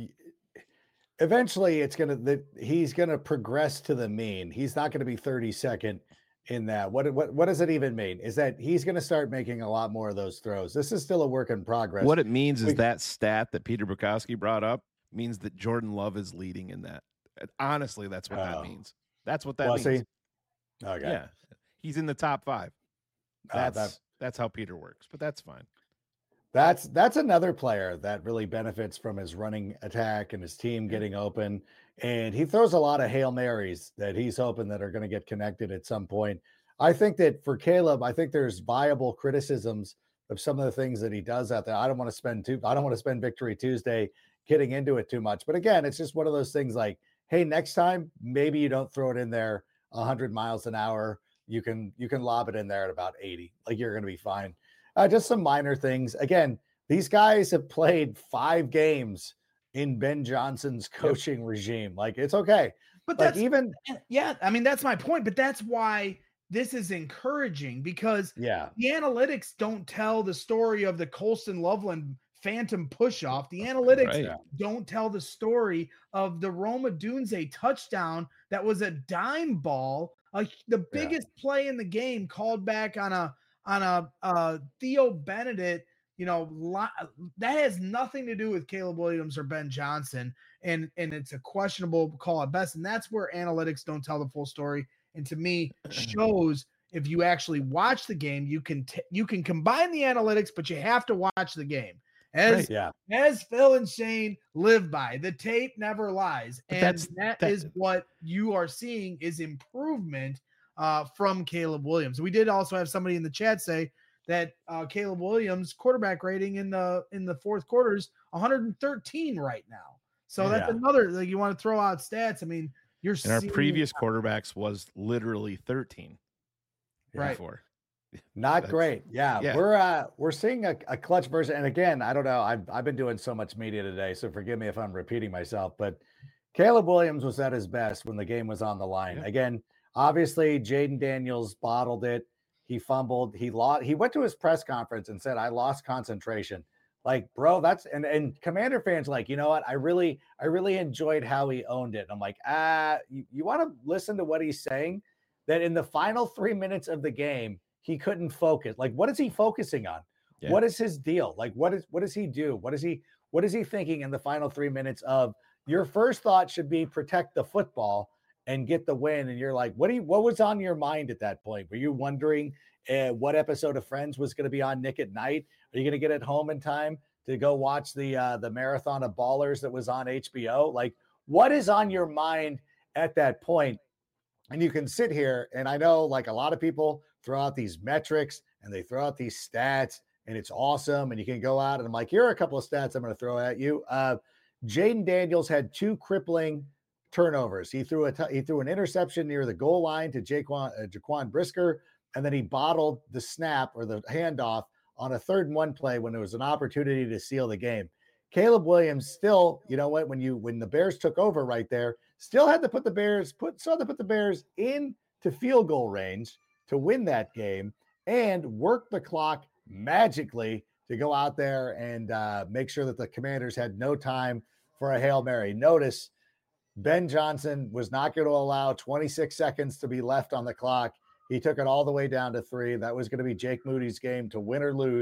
eventually it's going to, that he's going to progress to the mean. He's not going to be thirty-second in that. What, what, what does it even mean? Is that he's going to start making a lot more of those throws. This is still a work in progress. What it means we, is that stat that Peter Bukowski brought up means that Jordan Love is leading in that. Honestly, that's what uh, that means. That's what that well, means. See? Okay. Yeah. He's in the top five. That's, uh, that, that's how Peter works, but that's fine. That's that's another player that really benefits from his running attack and his team getting open. And he throws a lot of Hail Marys that he's hoping that are going to get connected at some point. I think that for Caleb, I think there's viable criticisms of some of the things that he does out there. I don't want to spend too, I don't want to spend Victory Tuesday getting into it too much. But again, it's just one of those things like, hey, next time, maybe you don't throw it in there a hundred miles an hour. You can, you can lob it in there at about eighty. Like, you're going to be fine. Uh, just some minor things. Again, these guys have played five games in Ben Johnson's coaching yep. regime. Like, it's okay. But like that's even, yeah, I mean, that's my point. But that's why this is encouraging, because yeah, the analytics don't tell the story of the Colston Loveland phantom push-off. The analytics right. don't tell the story of the Roma Dunze touchdown that was a dime ball, uh, the biggest yeah. play in the game, called back on a on a uh, Theo Benedict. You know, li- that has nothing to do with Caleb Williams or Ben Johnson, and and it's a questionable call at best. And that's where analytics don't tell the full story. And to me, shows if you actually watch the game, you can t- you can combine the analytics, but you have to watch the game. As right, yeah. as Phil and Shane live by, the tape never lies, but and that's, that, that is what you are seeing is improvement uh, from Caleb Williams. We did also have somebody in the chat say that uh, Caleb Williams' quarterback rating in the in the fourth quarter is one hundred thirteen right now. So that's yeah. another, like, you want to throw out stats. I mean, you're and our seeing, previous quarterbacks was literally thirteen. Right. Before. Not That's, great. Yeah, yeah. we're uh we're seeing a, a clutch version. And again, I don't know. I've I've been doing so much media today, so forgive me if I'm repeating myself. But Caleb Williams was at his best when the game was on the line. Yeah. Again, obviously, Jaden Daniels bottled it. He fumbled. He lost. He went to his press conference and said, "I lost concentration." Like, bro, that's and and Commander fans like, you know what? I really I really enjoyed how he owned it. I'm like, ah, you, you want to listen to what he's saying? That in the final three minutes of the game, he couldn't focus. Like, what is he focusing on? Yeah. What is his deal? Like, what is what does he do? What is he what is he thinking in the final three minutes of your first thought should be protect the football and get the win? And you're like, what do you what was on your mind at that point? Were you wondering uh, what episode of Friends was going to be on Nick at Night? Are you going to get it home in time to go watch the uh, the marathon of Ballers that was on H B O? Like, what is on your mind at that point? And you can sit here, and I know, like, a lot of people throw out these metrics and they throw out these stats, and it's awesome. And you can go out and I'm like, here are a couple of stats I'm going to throw at you. Uh, Jaden Daniels had two crippling turnovers. He threw a t- he threw an interception near the goal line to Jaquan, uh, Jaquan Brisker, and then he bottled the snap or the handoff on a third and one play when there was an opportunity to seal the game. Caleb Williams still, you know what, when you when the Bears took over right there, still had to put the Bears put still had to put the Bears into field goal range to win that game and work the clock magically to go out there and uh, make sure that the Commanders had no time for a Hail Mary. Notice Ben Johnson was not going to allow twenty-six seconds to be left on the clock. He took it all the way down to three. That was going to be Jake Moody's game to win or lose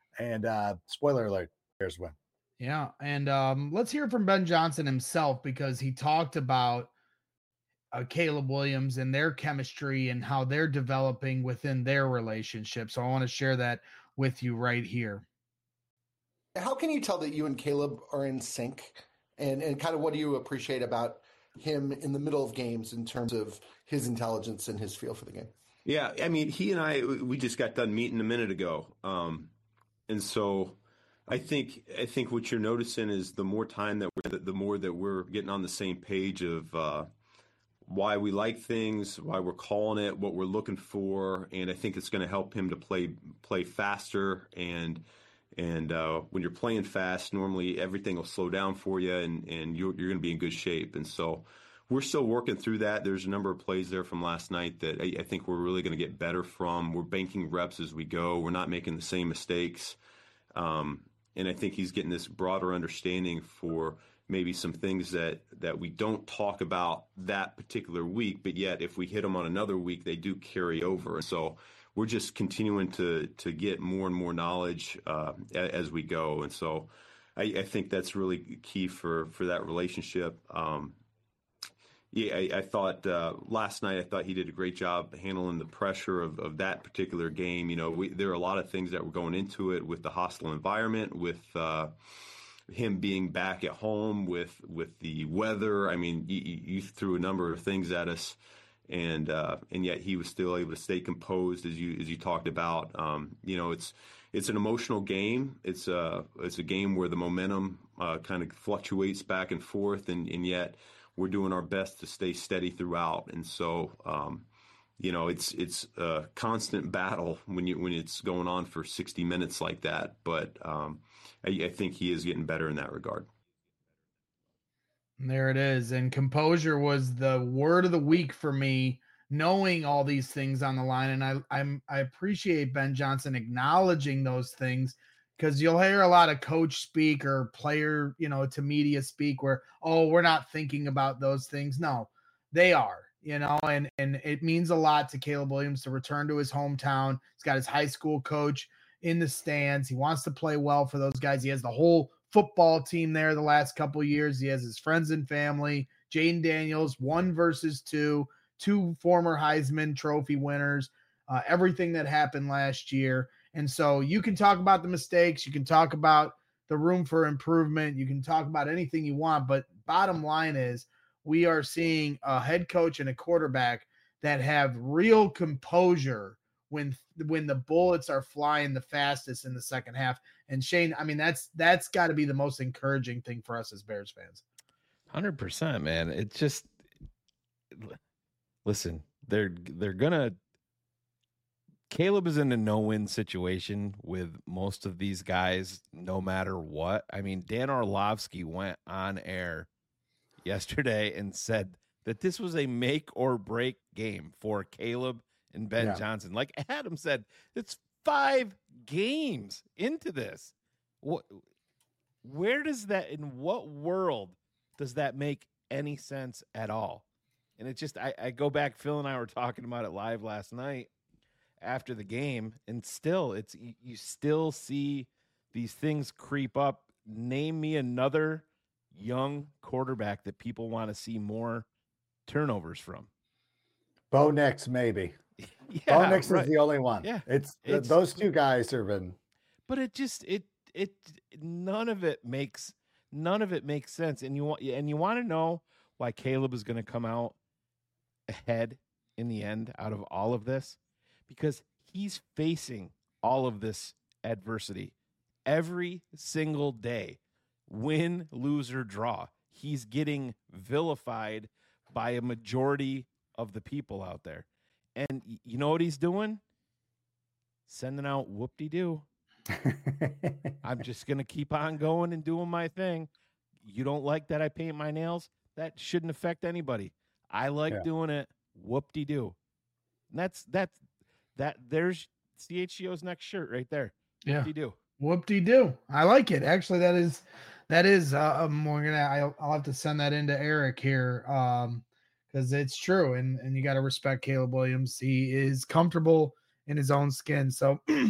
And uh, spoiler alert, Bears win. Yeah, and um, let's hear from Ben Johnson himself because he talked about uh, Caleb Williams and their chemistry and how they're developing within their relationship. So I want to share that with you right here. How can you tell that you and Caleb are in sync? And and kind of what do you appreciate about him in the middle of games in terms of his intelligence and his feel for the game? Yeah, I mean, he and I, we just got done meeting a minute ago. Um, and so I think I think what you're noticing is the more time that we're, the more that we're getting on the same page of uh, why we like things, why we're calling it, what we're looking for, and I think it's going to help him to play play faster. And and uh, when you're playing fast, normally everything will slow down for you, and and you're you're going to be in good shape. And so we're still working through that. There's a number of plays there from last night that I, I think we're really going to get better from. We're banking reps as we go. We're not making the same mistakes. Um, and I think he's getting this broader understanding for maybe some things that, that we don't talk about that particular week, but yet if we hit them on another week, they do carry over. And so we're just continuing to to get more and more knowledge uh, as we go. And so I, I think that's really key for, for that relationship. Um, Yeah, I, I thought uh, last night, I thought he did a great job handling the pressure of, of that particular game. You know, we, there are a lot of things that were going into it with the hostile environment, with uh, him being back at home, with with the weather. I mean, you, you threw a number of things at us, and uh, and yet he was still able to stay composed, as you as you talked about. Um, you know, it's it's an emotional game. It's a it's a game where the momentum uh, kind of fluctuates back and forth, and, and yet we're doing our best to stay steady throughout. And so, um, you know, it's it's a constant battle when you when it's going on for sixty minutes like that. But um, I, I think he is getting better in that regard. There it is. And composure was the word of the week for me, knowing all these things on the line. And I I'm I appreciate Ben Johnson acknowledging those things, because you'll hear a lot of coach speak or player, you know, to media speak where, oh, we're not thinking about those things. No, they are, you know, and, and it means a lot to Caleb Williams to return to his hometown. He's got his high school coach in the stands. He wants to play well for those guys. He has the whole football team there the last couple of years. He has his friends and family, Jaden Daniels, one versus two, two former Heisman Trophy winners, uh, everything that happened last year. And so you can talk about the mistakes, you can talk about the room for improvement, you can talk about anything you want, but bottom line is we are seeing a head coach and a quarterback that have real composure when when the bullets are flying the fastest in the second half. And Shane, I mean, that's that's got to be the most encouraging thing for us as Bears fans. one hundred percent, man. It's just, listen, they're they're gonna Caleb is in a no-win situation with most of these guys, no matter what. I mean, Dan Orlovsky went on air yesterday and said that this was a make or break game for Caleb and Ben Yeah. Johnson. Like Adam said, it's five games into this. What, where does that, in what world does that make any sense at all? And it just, I, I go back, Phil and I were talking about it live last night after the game, and still it's you, you still see these things creep up. Name me another young quarterback that people want to see more turnovers from. Bo Nix, maybe. Yeah, Bo Nix right. is the only one. Yeah, it's, it's- those two guys have been. But it just it it none of it makes none of it makes sense. And you want and you want to know why Caleb is going to come out ahead in the end out of all of this, because he's facing all of this adversity every single day. Win, lose, or draw. He's getting vilified by a majority of the people out there. And y- you know what he's doing? Sending out whoop-de-doo. I'm just going to keep on going and doing my thing. You don't like that I paint my nails? That shouldn't affect anybody. I like Yeah. doing it. Whoop-de-doo. And that's, that's, that, there's C H G O's next shirt right there. Yeah. Whoop-de-doo. Whoop-de-doo. I like it. Actually, that is, that is, uh, um, we're gonna, I'll, I'll have to send that into Eric here. Um, because it's true. And, and you got to respect Caleb Williams. He is comfortable in his own skin. So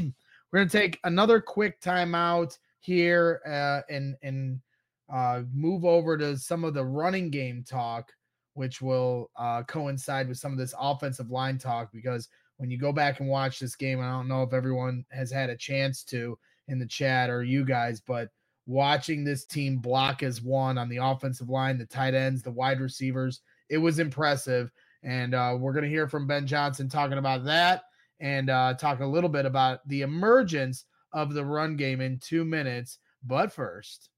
We're going to take another quick timeout here uh, and, and uh, move over to some of the running game talk, which will uh, coincide with some of this offensive line talk, because when you go back and watch this game, I don't know if everyone has had a chance to in the chat or you guys, but watching this team block as one on the offensive line, the tight ends, the wide receivers, it was impressive. And uh, we're going to hear from Ben Johnson talking about that and uh, talk a little bit about the emergence of the run game in two minutes. But first,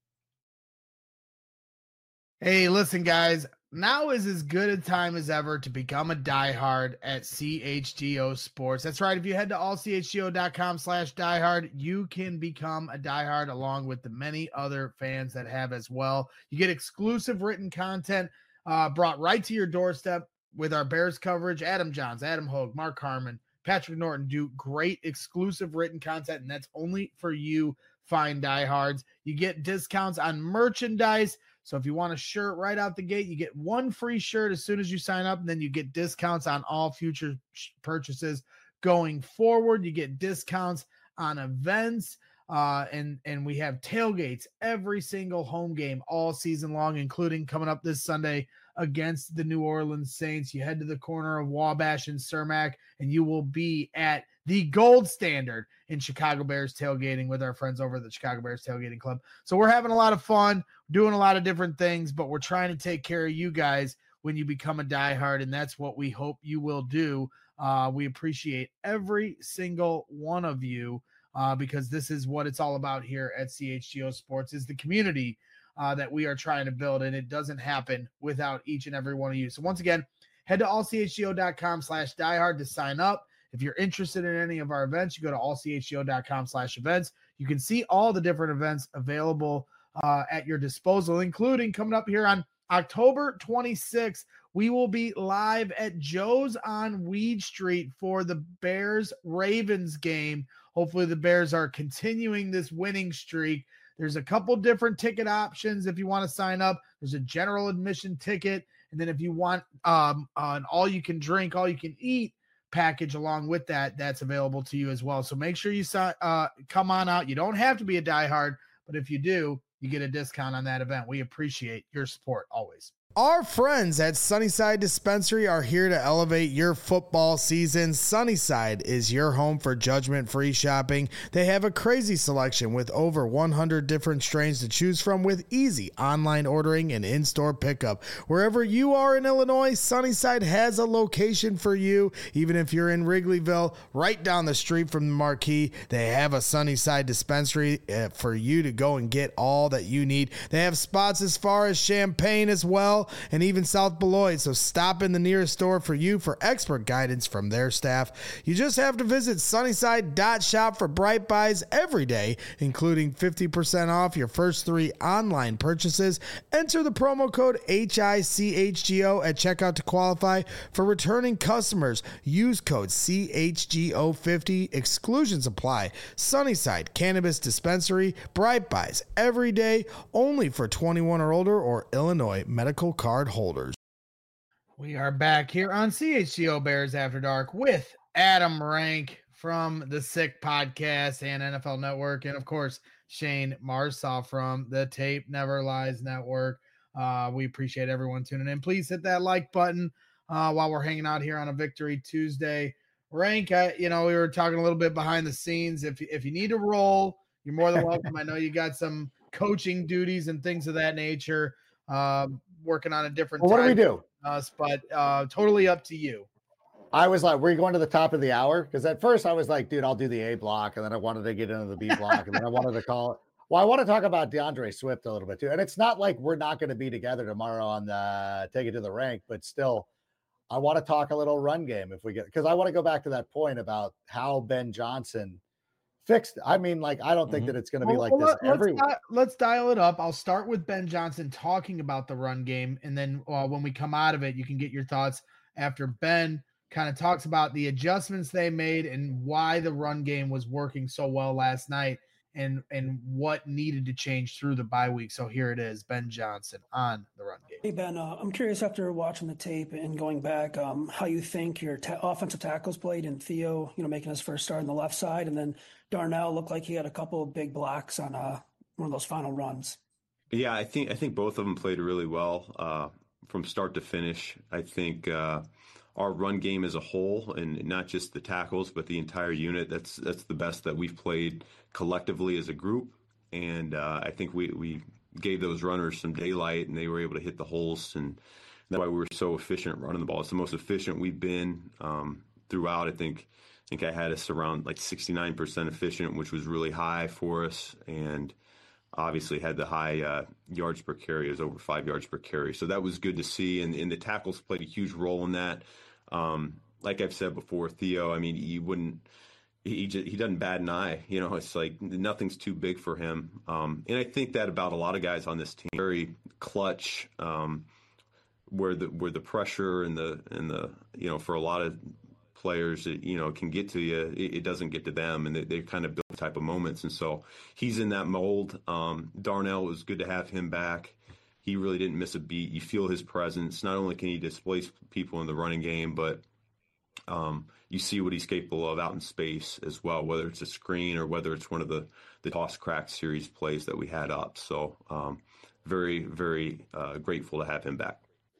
hey, listen, guys, now is as good a time as ever to become a diehard at C H G O Sports. That's right. If you head to all c h g o dot com slash diehard, you can become a diehard along with the many other fans that have as well. You get exclusive written content uh, brought right to your doorstep with our Bears coverage. Adam Johns, Adam Hogue, Mark Harmon, Patrick Norton do great exclusive written content, and that's only for you fine diehards. You get discounts on merchandise. So if you want a shirt right out the gate, you get one free shirt as soon as you sign up, and then you get discounts on all future purchases going forward. You get discounts on events, uh, and, and we have tailgates every single home game all season long, including coming up this Sunday against the New Orleans Saints. You head to the corner of Wabash and Cermak, and you will be at the gold standard in Chicago Bears tailgating with our friends over at the Chicago Bears Tailgating Club. So we're having a lot of fun, doing a lot of different things, but we're trying to take care of you guys when you become a diehard, and that's what we hope you will do. Uh, we appreciate every single one of you uh, because this is what it's all about here at C H G O Sports, is the community uh, that we are trying to build, and it doesn't happen without each and every one of you. So once again, head to all c h g o dot com slash diehard to sign up. If you're interested in any of our events, you go to all c h g o dot com slash events. You can see all the different events available uh, at your disposal, including coming up here on October twenty-sixth. We will be live at Joe's on Weed Street for the Bears-Ravens game. Hopefully the Bears are continuing this winning streak. There's a couple different ticket options if you want to sign up. There's a general admission ticket. And then if you want um, an all-you-can-drink, all-you-can-eat package along with that, that's available to you as well. So make sure you uh, come on out. You don't have to be a diehard, but if you do, you get a discount on that event. We appreciate your support always. Our friends at Sunnyside Dispensary are here to elevate your football season. Sunnyside is your home for judgment-free shopping. They have a crazy selection with over one hundred different strains to choose from, with easy online ordering and in-store pickup. Wherever you are in Illinois, Sunnyside has a location for you. Even if you're in Wrigleyville, right down the street from the Marquee, they have a Sunnyside Dispensary for you to go and get all that you need. They have spots as far as Champaign as well, and even South Beloit, so stop in the nearest store for you for expert guidance from their staff. You just have to visit sunnyside dot shop for bright buys every day, including fifty percent off your first three online purchases. Enter the promo code H I C H G O at checkout to qualify. For returning customers, use code C H G O fifty. Exclusions apply. Sunnyside Cannabis Dispensary, bright buys every day, only for twenty-one or older or Illinois medical card holders. We are back here on C H G O Bears After Dark with Adam Rank from the Sick Podcast and N F L Network, and of course Shane Marsaw from the Tape Never Lies Network. Uh, we appreciate everyone tuning in. Please hit that like button uh, while we're hanging out here on a Victory Tuesday. Rank, I, you know, we were talking a little bit behind the scenes. If if you need to roll, you're more than welcome. I know you got some coaching duties and things of that nature. Um, working on a different. Well, what do we do? Us, but uh, totally up to you. I was like, we're going to the top of the hour, because at first I was like, dude, I'll do the A block, and then I wanted to get into the B block, and then I wanted to call it. Well, I want to talk about DeAndre Swift a little bit too, and it's not like we're not going to be together tomorrow on the Take It to the Rank, but still, I want to talk a little run game if we get, because I want to go back to that point about how Ben Johnson fixed. I mean, like, I don't think mm-hmm. that it's going to be well, like well, this let's every di- let's dial it up. I'll start with Ben Johnson talking about the run game, and then uh, when we come out of it, you can get your thoughts after Ben kind of talks about the adjustments they made and why the run game was working so well last night. and and what needed to change through the bye week. So here it is, Ben Johnson on the run game. Hey, Ben, uh, I'm curious after watching the tape and going back, um, how you think your ta- offensive tackles played, and Theo, you know, making his first start on the left side, and then Darnell looked like he had a couple of big blocks on uh, one of those final runs. Yeah, I think I think both of them played really well uh, from start to finish. I think uh, our run game as a whole, and not just the tackles, but the entire unit, that's that's the best that we've played collectively as a group. And uh, I think we, we gave those runners some daylight, and they were able to hit the holes, and that's why we were so efficient running the ball. It's the most efficient we've been um, throughout. I think I think I had us around like sixty-nine percent efficient, which was really high for us, and obviously had the high uh, yards per carry. It was over five yards per carry. So that was good to see. And, and the tackles played a huge role in that. Um, like I've said before, Theo, I mean, you wouldn't, he just, he doesn't bat an eye. You know, it's like nothing's too big for him. Um, and I think that about a lot of guys on this team, very clutch, um, where the, where the pressure and the, and the, you know, for a lot of players, it, you know, can get to you, it, it doesn't get to them, and they, they kind of build type of moments. And so he's in that mold. Um, Darnell, it was good to have him back. He really didn't miss a beat. You feel his presence. Not only can he displace people in the running game, but um, you see what he's capable of out in space as well, whether it's a screen or whether it's one of the, the toss crack series plays that we had up. So um, very, very uh, grateful to have him back.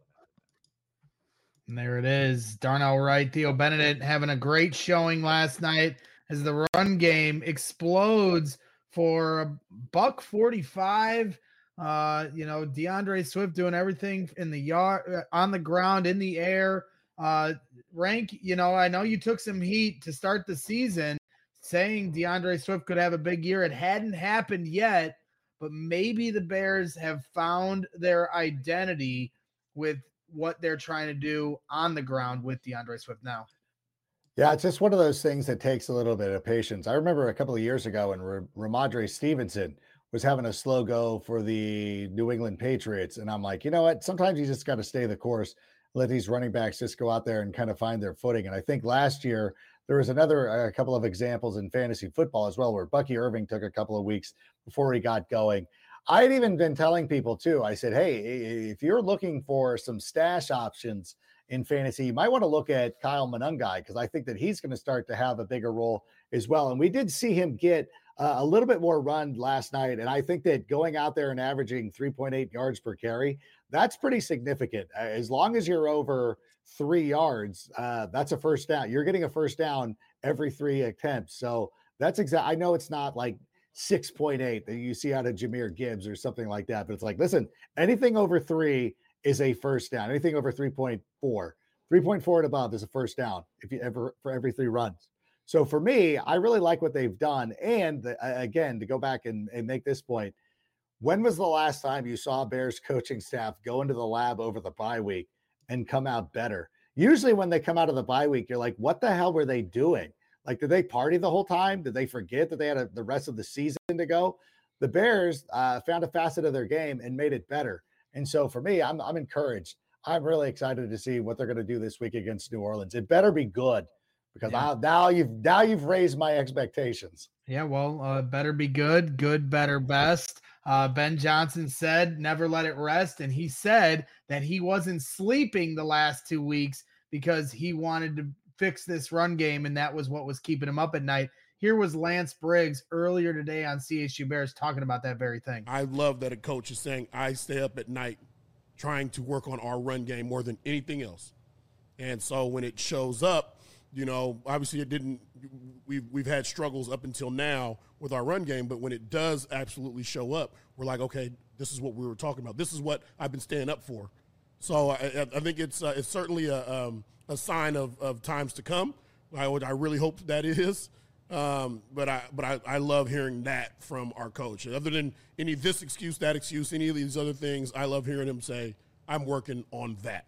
And there it is. Darnell Wright, Theo Benedict having a great showing last night as the run game explodes for a buck forty-five. Uh, you know, DeAndre Swift doing everything in the yard, on the ground, in the air. Uh, Rank, you know, I know you took some heat to start the season saying DeAndre Swift could have a big year. It hadn't happened yet, but maybe the Bears have found their identity with what they're trying to do on the ground with DeAndre Swift now. Yeah, it's just one of those things that takes a little bit of patience. I remember a couple of years ago when Ramondre Stevenson was having a slow go for the New England Patriots. And I'm like, you know what? Sometimes you just got to stay the course, let these running backs just go out there and kind of find their footing. And I think last year there was another a uh, couple of examples in fantasy football as well, where Bucky Irving took a couple of weeks before he got going. I had even been telling people too, I said, hey, if you're looking for some stash options in fantasy, you might want to look at Kyle Monangai, because I think that he's going to start to have a bigger role as well. And we did see him get uh, a little bit more run last night. And I think that going out there and averaging three point eight yards per carry, that's pretty significant. As long as you're over three yards, uh, that's a first down. You're getting a first down every three attempts. So that's exact. I know it's not like six point eight that you see out of Jahmyr Gibbs or something like that, but it's like, listen, anything over three is a first down. Anything over three point four, three point four and above is a first down if you ever for every three runs. So for me, I really like what they've done. And the, again, to go back and, and make this point, when was the last time you saw Bears coaching staff go into the lab over the bye week and come out better? Usually when they come out of the bye week, you're like, what the hell were they doing? Like, did they party the whole time? Did they forget that they had a, the rest of the season to go? The Bears uh, found a facet of their game and made it better. And so for me, I'm I'm encouraged. I'm really excited to see what they're going to do this week against New Orleans. It better be good, because yeah. I, now you've now you've raised my expectations. Yeah, well, uh, better be good, good, better, best. Uh, Ben Johnson said, never let it rest. And he said that he wasn't sleeping the last two weeks because he wanted to fix this run game, and that was what was keeping him up at night. Here was Lance Briggs earlier today on C H G Bears talking about that very thing. I love that a coach is saying, I stay up at night trying to work on our run game more than anything else. And so when it shows up, you know, obviously it didn't, we've, we've had struggles up until now with our run game, but when it does absolutely show up, we're like, okay, this is what we were talking about. This is what I've been staying up for. So I, I think it's uh, it's certainly a, um, a sign of, of times to come. I would, I really hope that is. Um, but I but I, I love hearing that from our coach. Other than any this excuse, that excuse, any of these other things, I love hearing him say, I'm working on that.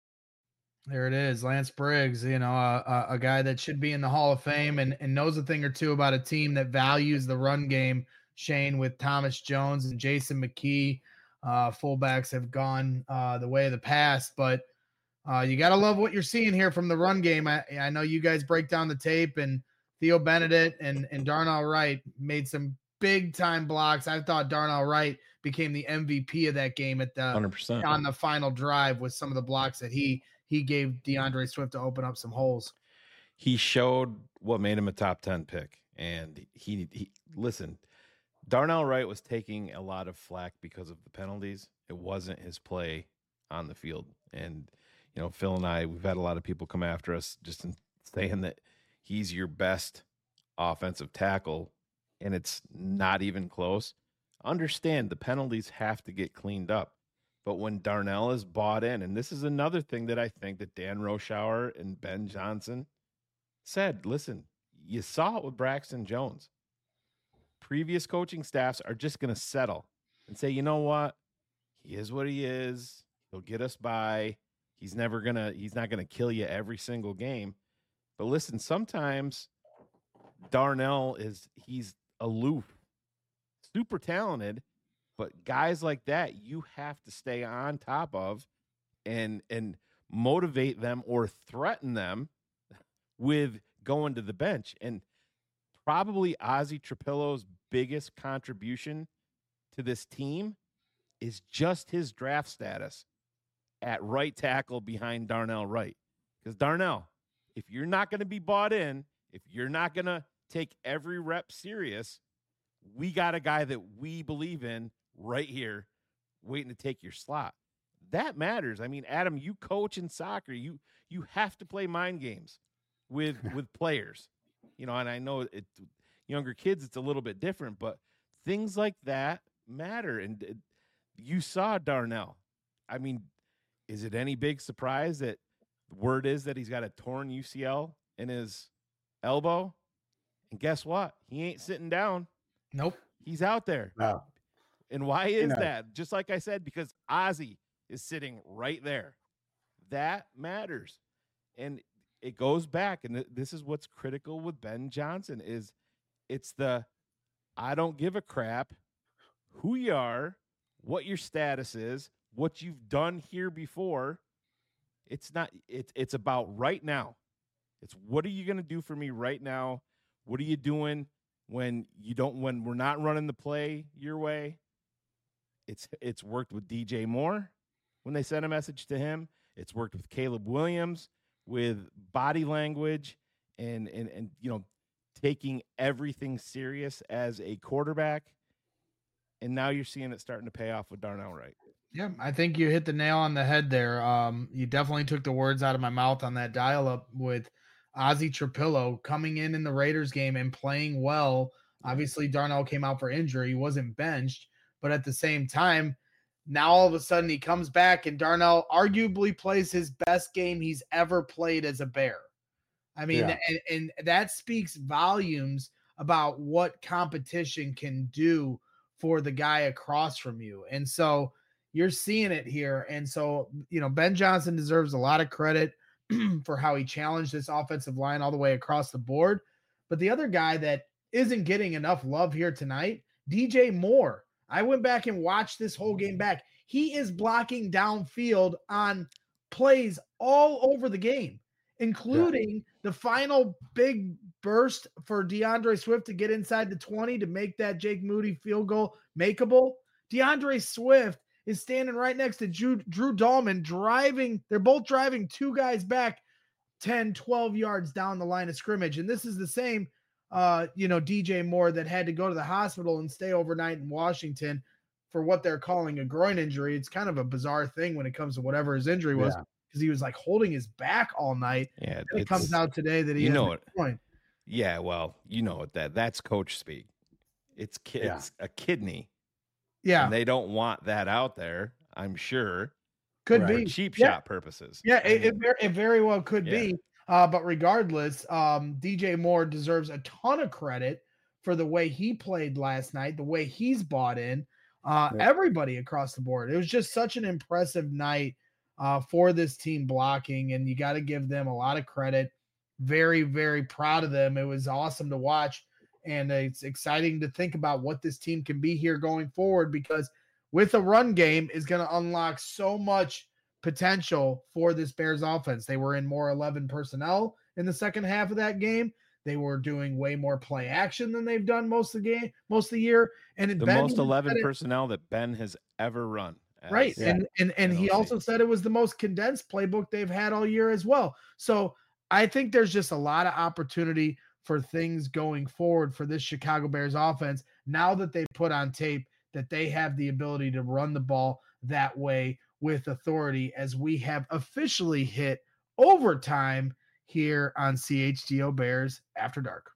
There it is, Lance Briggs, you know, a, a guy that should be in the Hall of Fame and, and knows a thing or two about a team that values the run game, Shane, with Thomas Jones and Jason McKee. Uh, fullbacks have gone uh, the way of the past, but uh, you got to love what you're seeing here from the run game. I, I know you guys break down the tape, and Theo Benedict and, and Darnell Wright made some big time blocks. I thought Darnell Wright became the M V P of that game at the one hundred percent on the final drive with some of the blocks that he he gave DeAndre Swift to open up some holes. He showed what made him a top ten pick. And he, he listen, Darnell Wright was taking a lot of flack because of the penalties. It wasn't his play on the field. And, you know, Phil and I, we've had a lot of people come after us just in saying that he's your best offensive tackle, and it's not even close. Understand the penalties have to get cleaned up. But when Darnell is bought in, and this is another thing that I think that Dan Roshauer and Ben Johnson said, listen, you saw it with Braxton Jones. Previous coaching staffs are just going to settle and say, you know what? He is what he is. He'll get us by. He's never going to, he's not going to kill you every single game. But listen, sometimes Darnell is, he's aloof, super talented, but guys like that, you have to stay on top of and, and motivate them or threaten them with going to the bench. And probably Ozzie Trapillo's biggest contribution to this team is just his draft status at right tackle behind Darnell Wright. Because Darnell, if you're not going to be bought in, if you're not going to take every rep serious, we got a guy that we believe in right here waiting to take your slot. That matters. I mean, Adam, you coach in soccer. You you have to play mind games with with players. You know, and I know it younger kids, it's a little bit different, but things like that matter. And it, you saw Darnell. I mean, is it any big surprise that the word is that he's got a torn U C L in his elbow? And guess what? He ain't sitting down. Nope. He's out there. Wow. And why is You know. that? Just like I said, because Ozzie is sitting right there. That matters. And it goes back, and th- this is what's critical with Ben Johnson is it's the I don't give a crap who you are, what your status is, what you've done here before. It's not it's it's about right now. It's what are you going to do for me right now? What are you doing when you don't when we're not running the play your way? It's it's worked with D J Moore when they sent a message to him. It's worked with Caleb Williams with body language and and and you know taking everything serious as a quarterback. And now you're seeing it starting to pay off with Darnell Wright. Yeah, I think you hit the nail on the head there. Um, you definitely took the words out of my mouth on that dial-up with Ozzie Trapillo coming in in the Raiders game and playing well. Obviously, Darnell came out for injury. He wasn't benched. But at the same time, now all of a sudden he comes back and Darnell arguably plays his best game he's ever played as a Bear. I mean, Yeah. and, and that speaks volumes about what competition can do for the guy across from you. And so you're seeing it here. And so, you know, Ben Johnson deserves a lot of credit for how he challenged this offensive line all the way across the board. But the other guy that isn't getting enough love here tonight, D J Moore. I went back and watched this whole game back. He is blocking downfield on plays all over the game, including yeah. the final big burst for DeAndre Swift to get inside the twenty to make that Jake Moody field goal makeable. DeAndre Swift is standing right next to Drew, Drew Dahlman driving. They're both driving two guys back ten, twelve yards down the line of scrimmage. And this is the same, uh, you know, D J Moore that had to go to the hospital and stay overnight in Washington for what they're calling a groin injury. It's kind of a bizarre thing when it comes to whatever his injury was because yeah. he was like holding his back all night. Yeah. And it comes out today that he you has know a groin. Yeah. Well, you know what that that's coach speak. It's, ki- Yeah. it's a kidney. Yeah. And they don't want that out there, I'm sure. Could Right. be. For cheap Yeah. shot purposes. Yeah, I it, it, mean, ver- it very well could Yeah. be. Uh, but regardless, um, D J Moore deserves a ton of credit for the way he played last night, the way he's bought in. Uh, Yeah. Everybody across the board. It was just such an impressive night uh, for this team blocking, and you got to give them a lot of credit. Very, very proud of them. It was awesome to watch, and it's exciting to think about what this team can be here going forward because with a run game is going to unlock so much potential for this Bears offense. They were in more eleven personnel in the second half of that game. They were doing way more play action than they've done most of the game, most of the year. And The Ben most even eleven said it- personnel that Ben has ever run. right. as And and and an he O C. also said it was the most condensed playbook they've had all year as well. So I think there's just a lot of opportunity for things going forward for this Chicago Bears offense now that they put on tape that they have the ability to run the ball that way with authority, as we have officially hit overtime here on C H G O Bears After Dark.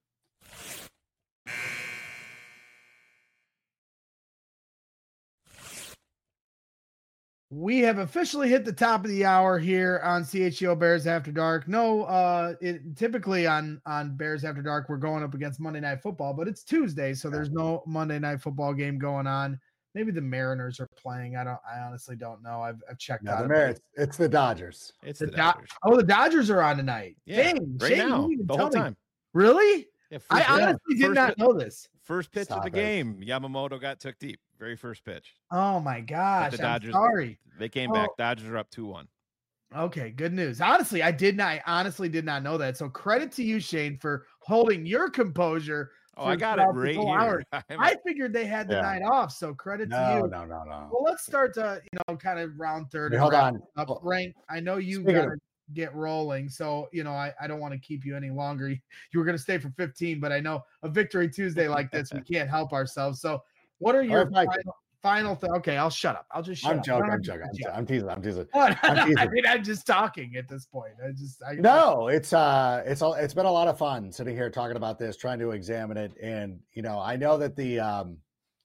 We have officially hit the top of the hour here on C H G O Bears After Dark. No, uh, it, typically on on Bears After Dark, we're going up against Monday Night Football, but it's Tuesday, so there's no Monday Night Football game going on. Maybe the Mariners are playing. I don't. I honestly don't know. I've, I've checked No, out. the it. Mar- it's, it's the Dodgers. It's The the Do- Dodgers. oh, the Dodgers are on tonight. Yeah, Dang, right Shane, you now, didn't even the tell whole me. time. Really? Yeah, I first- honestly did first not hit- know this. First pitch Stop of the it. game, Yamamoto got took deep. Very first pitch. Oh my But gosh! the I'm Dodgers, sorry. they came Oh. back. Dodgers are up two one. Okay, good news. Honestly, I did not. I honestly did not know that. So credit to you, Shane, for holding your composure. Oh, I for got it throughout this right whole here. hour. I'm- I figured they had the Yeah. night off, so credit to No, you. no, no, no. Well, let's start to you know kind of round third. Hey, and hold wrap on. it Up. Oh. Rank. I know you Speaking got of- to get rolling, so you know I, I don't want to keep you any longer. You, you were going to stay for fifteen, but I know a Victory Tuesday like this, we can't help ourselves. So, what are your right, Mike. final, final th- Okay, I'll shut up. I'll just shut I'm up. joking. No, I'm joking. I'm, yeah. jo- I'm teasing. I'm teasing. What? I'm I teasing. mean, I'm just talking at this point. I just I, No, it's uh, it's all. It's been a lot of fun sitting here talking about this, trying to examine it, and you know, I know that the, um,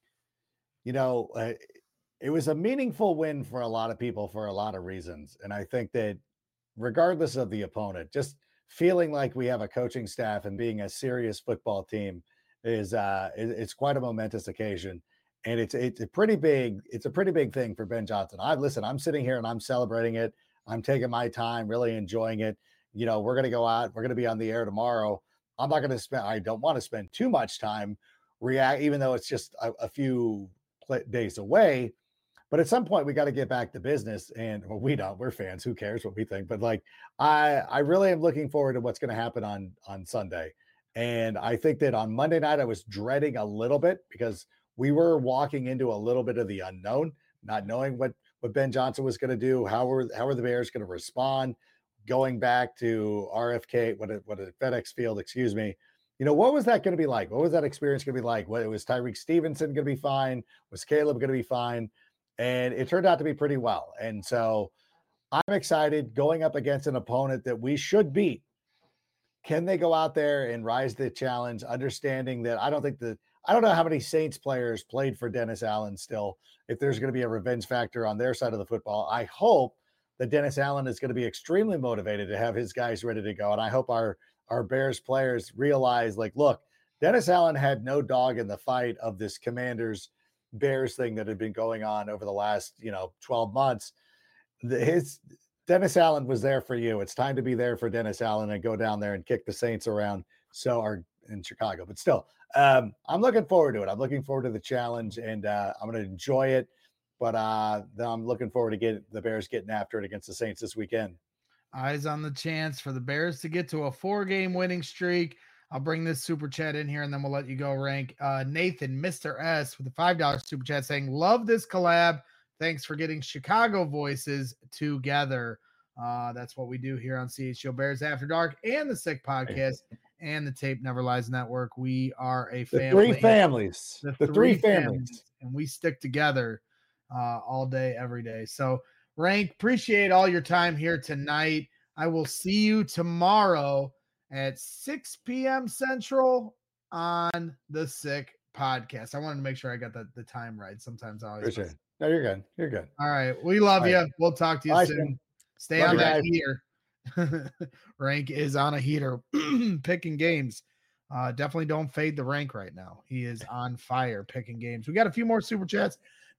you know, uh, it was a meaningful win for a lot of people for a lot of reasons, and I think that regardless of the opponent, just feeling like we have a coaching staff and being a serious football team is uh, it, it's quite a momentous occasion. And it's it's a pretty big it's a pretty big thing for Ben Johnson. I listen, I'm sitting here and I'm celebrating it. I'm taking my time, really enjoying it. You know, we're going to go out. We're going to be on the air tomorrow. I'm not going to spend. I don't want to spend too much time react, even though it's just a, a few pl- days away. But at some point, we got to get back to business. And well, we don't. We're fans. Who cares what we think? But like, I I really am looking forward to what's going to happen on on Sunday. And I think that on Monday night, I was dreading a little bit because we were walking into a little bit of the unknown, not knowing what, what Ben Johnson was going to do. How were, how were the Bears going to respond going back to R F K, what a, what a FedEx Field, excuse me. You know, what was that going to be like? What was that experience going to be like? What, was Tyreek Stevenson going to be fine? Was Caleb going to be fine? And it turned out to be pretty well. And so I'm excited going up against an opponent that we should beat. Can they go out there and rise to the challenge, understanding that I don't think that I don't know how many Saints players played for Dennis Allen still, if there's going to be a revenge factor on their side of the football. I hope that Dennis Allen is going to be extremely motivated to have his guys ready to go. And I hope our, our Bears players realize, like, look, Dennis Allen had no dog in the fight of this Commanders Bears thing that had been going on over the last, you know, twelve months. The, his Dennis Allen was there for you. It's time to be there for Dennis Allen and go down there and kick the Saints around. So are in Chicago, but still, um, I'm looking forward to it. I'm looking forward to the challenge, and uh, I'm going to enjoy it. But uh, I'm looking forward to get the Bears getting after it against the Saints this weekend. Eyes on the chance for the Bears to get to a four-game winning streak. I'll bring this super chat in here, and then we'll let you go, Rank. Uh, Nathan, Mister S, with a five dollar super chat saying, love this collab. Thanks for getting Chicago voices together. Uh, that's what we do here on C H G O Bears After Dark and the Sick Podcast and the Tape Never Lies Network. We are a The family. three families. The, The, three, families. And we stick together uh, all day, every day. So, Rank, appreciate all your time here tonight. I will see you tomorrow at six p.m. Central on the Sick Podcast. I wanted to make sure I got the, the time right. Sometimes I always Appreciate it. No, you're good. You're good. All right. We love All you. right. We'll talk to you Bye, soon. Shane. Stay Love on you that guys. heater. Rank is on a heater, picking games. Uh, definitely don't fade the Rank right now. He is on fire picking games. We got a few more super chats.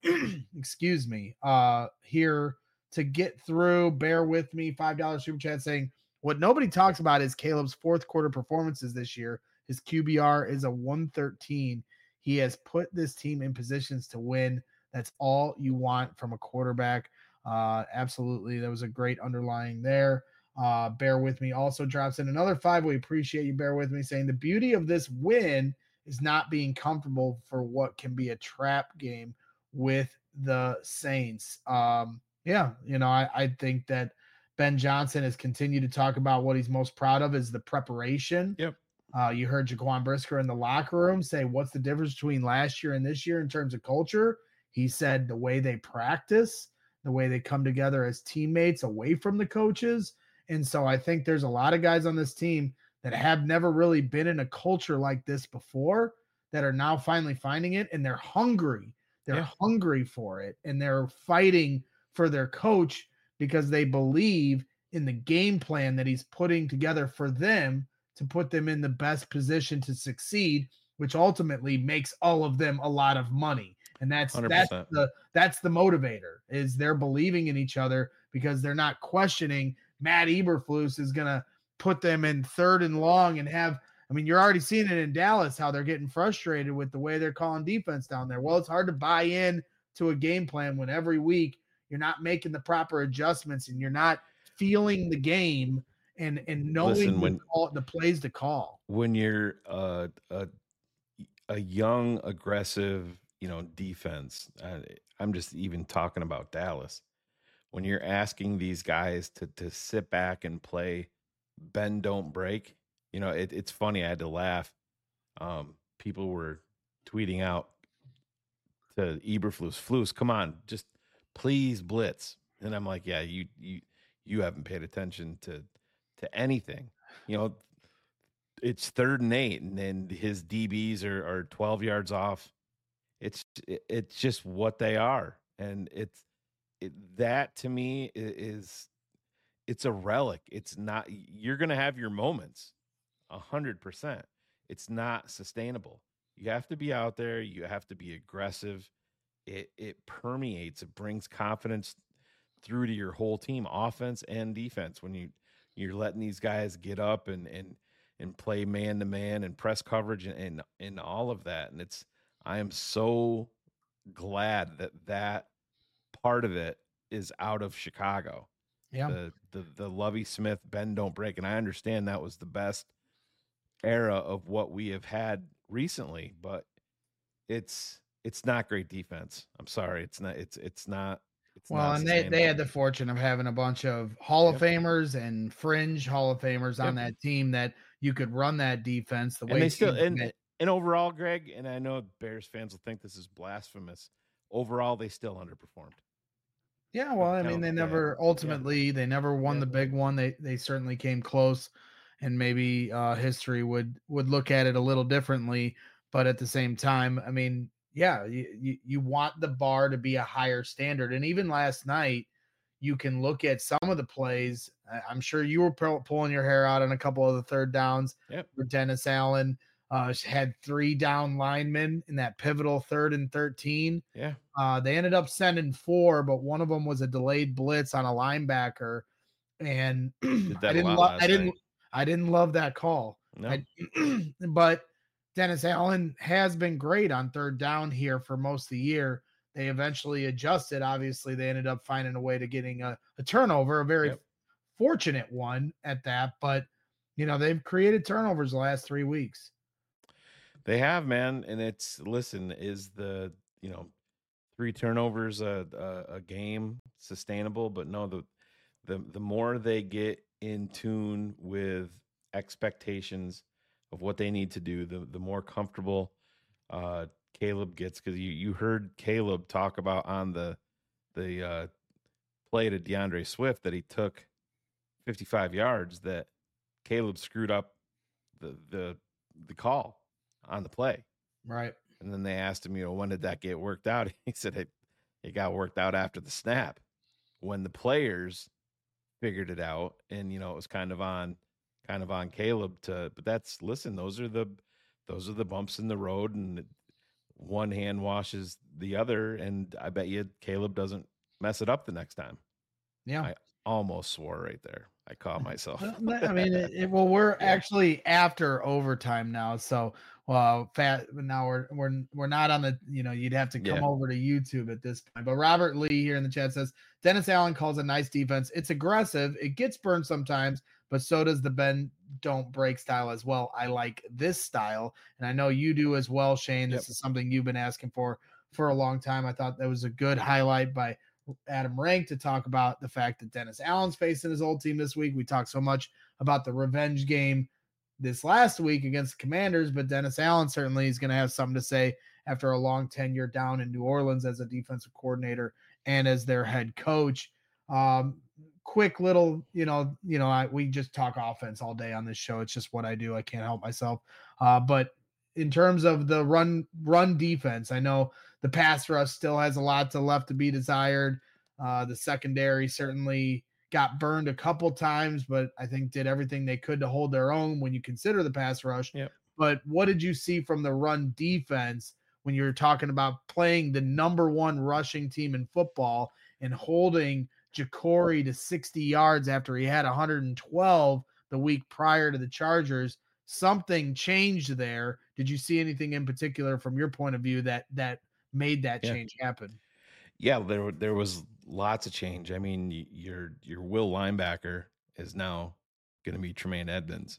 Excuse me. Uh, here to get through. Bear with me. five dollar super chat saying, what nobody talks about is Caleb's fourth quarter performances this year. His Q B R is a one thirteen. He has put this team in positions to win. That's all you want from a quarterback. Uh, absolutely. That was a great underlying there. Uh, Bear With Me also drops in another five. We appreciate you, Bear With Me, saying the beauty of this win is not being comfortable for what can be a trap game with the Saints. Um, yeah, you know, I, I think that Ben Johnson has continued to talk about what he's most proud of is the preparation. Yep. Uh, you heard Jaquan Brisker in the locker room say, what's the difference between last year and this year in terms of culture? He said the way they practice, the way they come together as teammates away from the coaches. And so I think there's a lot of guys on this team that have never really been in a culture like this before that are now finally finding it, and they're hungry. They're Yeah. hungry for it, and they're fighting for their coach because they believe in the game plan that he's putting together for them to put them in the best position to succeed, which ultimately makes all of them a lot of money. And that's one hundred that's percent. the that's the motivator, is they're believing in each other because they're not questioning Matt Eberflus is going to put them in third and long and have – I mean, you're already seeing it in Dallas, how they're getting frustrated with the way they're calling defense down there. Well, it's hard to buy in to a game plan when every week you're not making the proper adjustments and you're not feeling the game and, and knowing Listen, the, when- call, the plays to call. When you're uh, a a young, aggressive, you know, defense, uh, I'm just even talking about Dallas. When you're asking these guys to to sit back and play bend don't break, you know, it, it's funny. I had to laugh. Um, people were tweeting out to Eberflus, Flus, come on, just please blitz. And I'm like, yeah, you you you haven't paid attention to to anything. You know, it's third and eight, and then his D Bs are, are twelve yards off. It's it, it's just what they are, and it's it, that to me is it's a relic. It's not. You're gonna have your moments, a hundred percent. It's not sustainable. You have to be out there. You have to be aggressive. It it permeates. It brings confidence through to your whole team, offense and defense. When you you're letting these guys get up and and and play man to man and press coverage and, and and all of that. And it's I am so glad that that part of it is out of Chicago. Yeah. The the the Lovie Smith bend don't break, and I understand that was the best era of what we have had recently, but it's it's not great defense. I'm sorry, it's not. It's it's not. It's Well, not and they, they had sustainable. the fortune of having a bunch of Hall of Yep. Famers and fringe Hall of Famers on Yep. that team that you could run that defense the way and they still teams and get- and overall, Greg, and I know Bears fans will think this is blasphemous. Overall, they still underperformed. Yeah, well, I mean, count, they yeah. never ultimately they never won Yeah. the big one. They they certainly came close, and maybe uh, history would would look at it a little differently. But at the same time, I mean, yeah, you, you you want the bar to be a higher standard. And even last night, you can look at some of the plays. I- I'm sure you were pull- pulling your hair out on a couple of the third downs. Yep. Where Dennis Allen uh, had three down linemen in that pivotal third and thirteen. Yeah. Uh, they ended up sending four, but one of them was a delayed blitz on a linebacker, and Did that I a didn't. lot Lo- last I didn't. night. I didn't love that call. No. I, but Dennis Allen has been great on third down here for most of the year. They eventually adjusted. Obviously, they ended up finding a way to getting a, a turnover, a very Yep. fortunate one at that. But you know, they've created turnovers the last three weeks. They have, man, and it's listen. Is the you know three turnovers a, a a game sustainable? But no, the the the more they get in tune with expectations of what they need to do, the the more comfortable uh, Caleb gets. Because you you heard Caleb talk about on the the uh, play to DeAndre Swift that he took fifty-five yards. That Caleb screwed up the the the call on the play. Right. And then they asked him, you know, when did that get worked out? He said it, it got worked out after the snap when the players figured it out. And, you know, it was kind of on, kind of on Caleb to, but that's, listen, those are the, those are the bumps in the road, and one hand washes the other. And I bet you Caleb doesn't mess it up the next time. Yeah. I almost swore right there. I caught myself. I mean, it, it, well, we're yeah. actually after overtime now, so well, fat. Now we're we're we're not on the. You know, you'd have to come yeah. over to YouTube at this point. But Robert Lee here in the chat says Dennis Allen calls a nice defense. It's aggressive. It gets burned sometimes, but so does the bend don't break style as well. I like this style, and I know you do as well, Shane. This yep. is something you've been asking for for a long time. I thought that was a good highlight by Adam Rank to talk about the fact that Dennis Allen's facing his old team this week. We talked so much about the revenge game this last week against the Commanders, but Dennis Allen certainly is going to have something to say after a long tenure down in New Orleans as a defensive coordinator and as their head coach. Um, quick little, you know, you know, I, we just talk offense all day on this show. It's just what I do. I can't help myself. Uh, but in terms of the run run defense, I know the pass rush still has a lot to left to be desired. Uh, the secondary certainly got burned a couple times, but I think did everything they could to hold their own when you consider the pass rush. Yep. But what did you see from the run defense when you're talking about playing the number one rushing team in football and holding Jacory to sixty yards after he had one hundred twelve the week prior to the Chargers? Something changed there. Did you see anything in particular from your point of view that that made that yeah. change happen? Yeah, there there was lots of change. I mean, your your will linebacker is now going to be Tremaine Edmonds.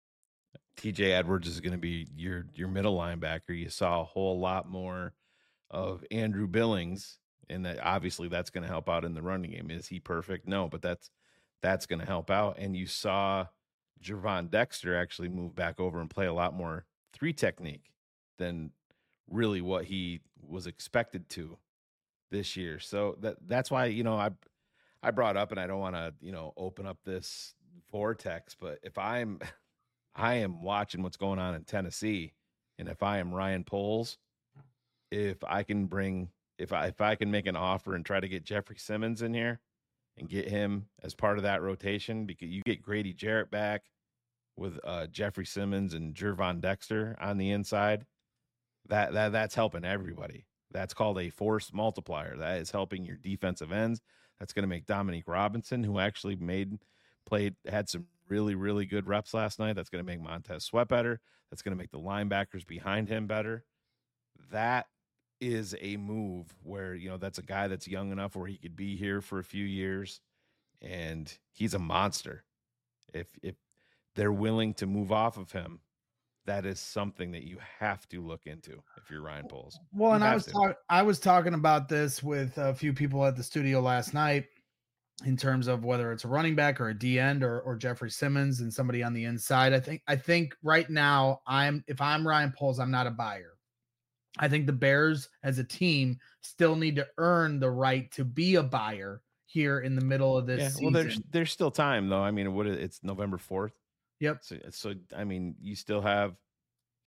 T J Edwards is going to be your your middle linebacker. You saw a whole lot more of Andrew Billings, and that obviously that's going to help out in the running game. Is he perfect? No, but that's that's going to help out. And you saw Gervon Dexter actually move back over and play a lot more three technique than really what he was expected to this year. So that that's why, you know, I I brought up, and I don't want to, you know, open up this vortex, but if I'm I am watching what's going on in Tennessee, and if I am Ryan Poles, if I can bring if I if I can make an offer and try to get Jeffrey Simmons in here and get him as part of that rotation, because you get Grady Jarrett back with uh, Jeffrey Simmons and Gervon Dexter on the inside, that that that's helping everybody. That's called a force multiplier. That is helping your defensive ends. That's going to make Dominique Robinson, who actually made played had some really really good reps last night. That's going to make Montez Sweat better. That's going to make the linebackers behind him better. That is a move where, you know, that's a guy that's young enough where he could be here for a few years, and he's a monster. If if they're willing to move off of him, that is something that you have to look into if you're Ryan Poles. Well, and I was talking I was talking about this with a few people at the studio last night in terms of whether it's a running back or a D end or or Jeffrey Simmons and somebody on the inside. I think I think right now I'm if I'm Ryan Poles, I'm not a buyer. I think the Bears as a team still need to earn the right to be a buyer here in the middle of this yeah, season. Well, there's there's still time though. I mean, what it's November fourth. Yep. So, so I mean, you still have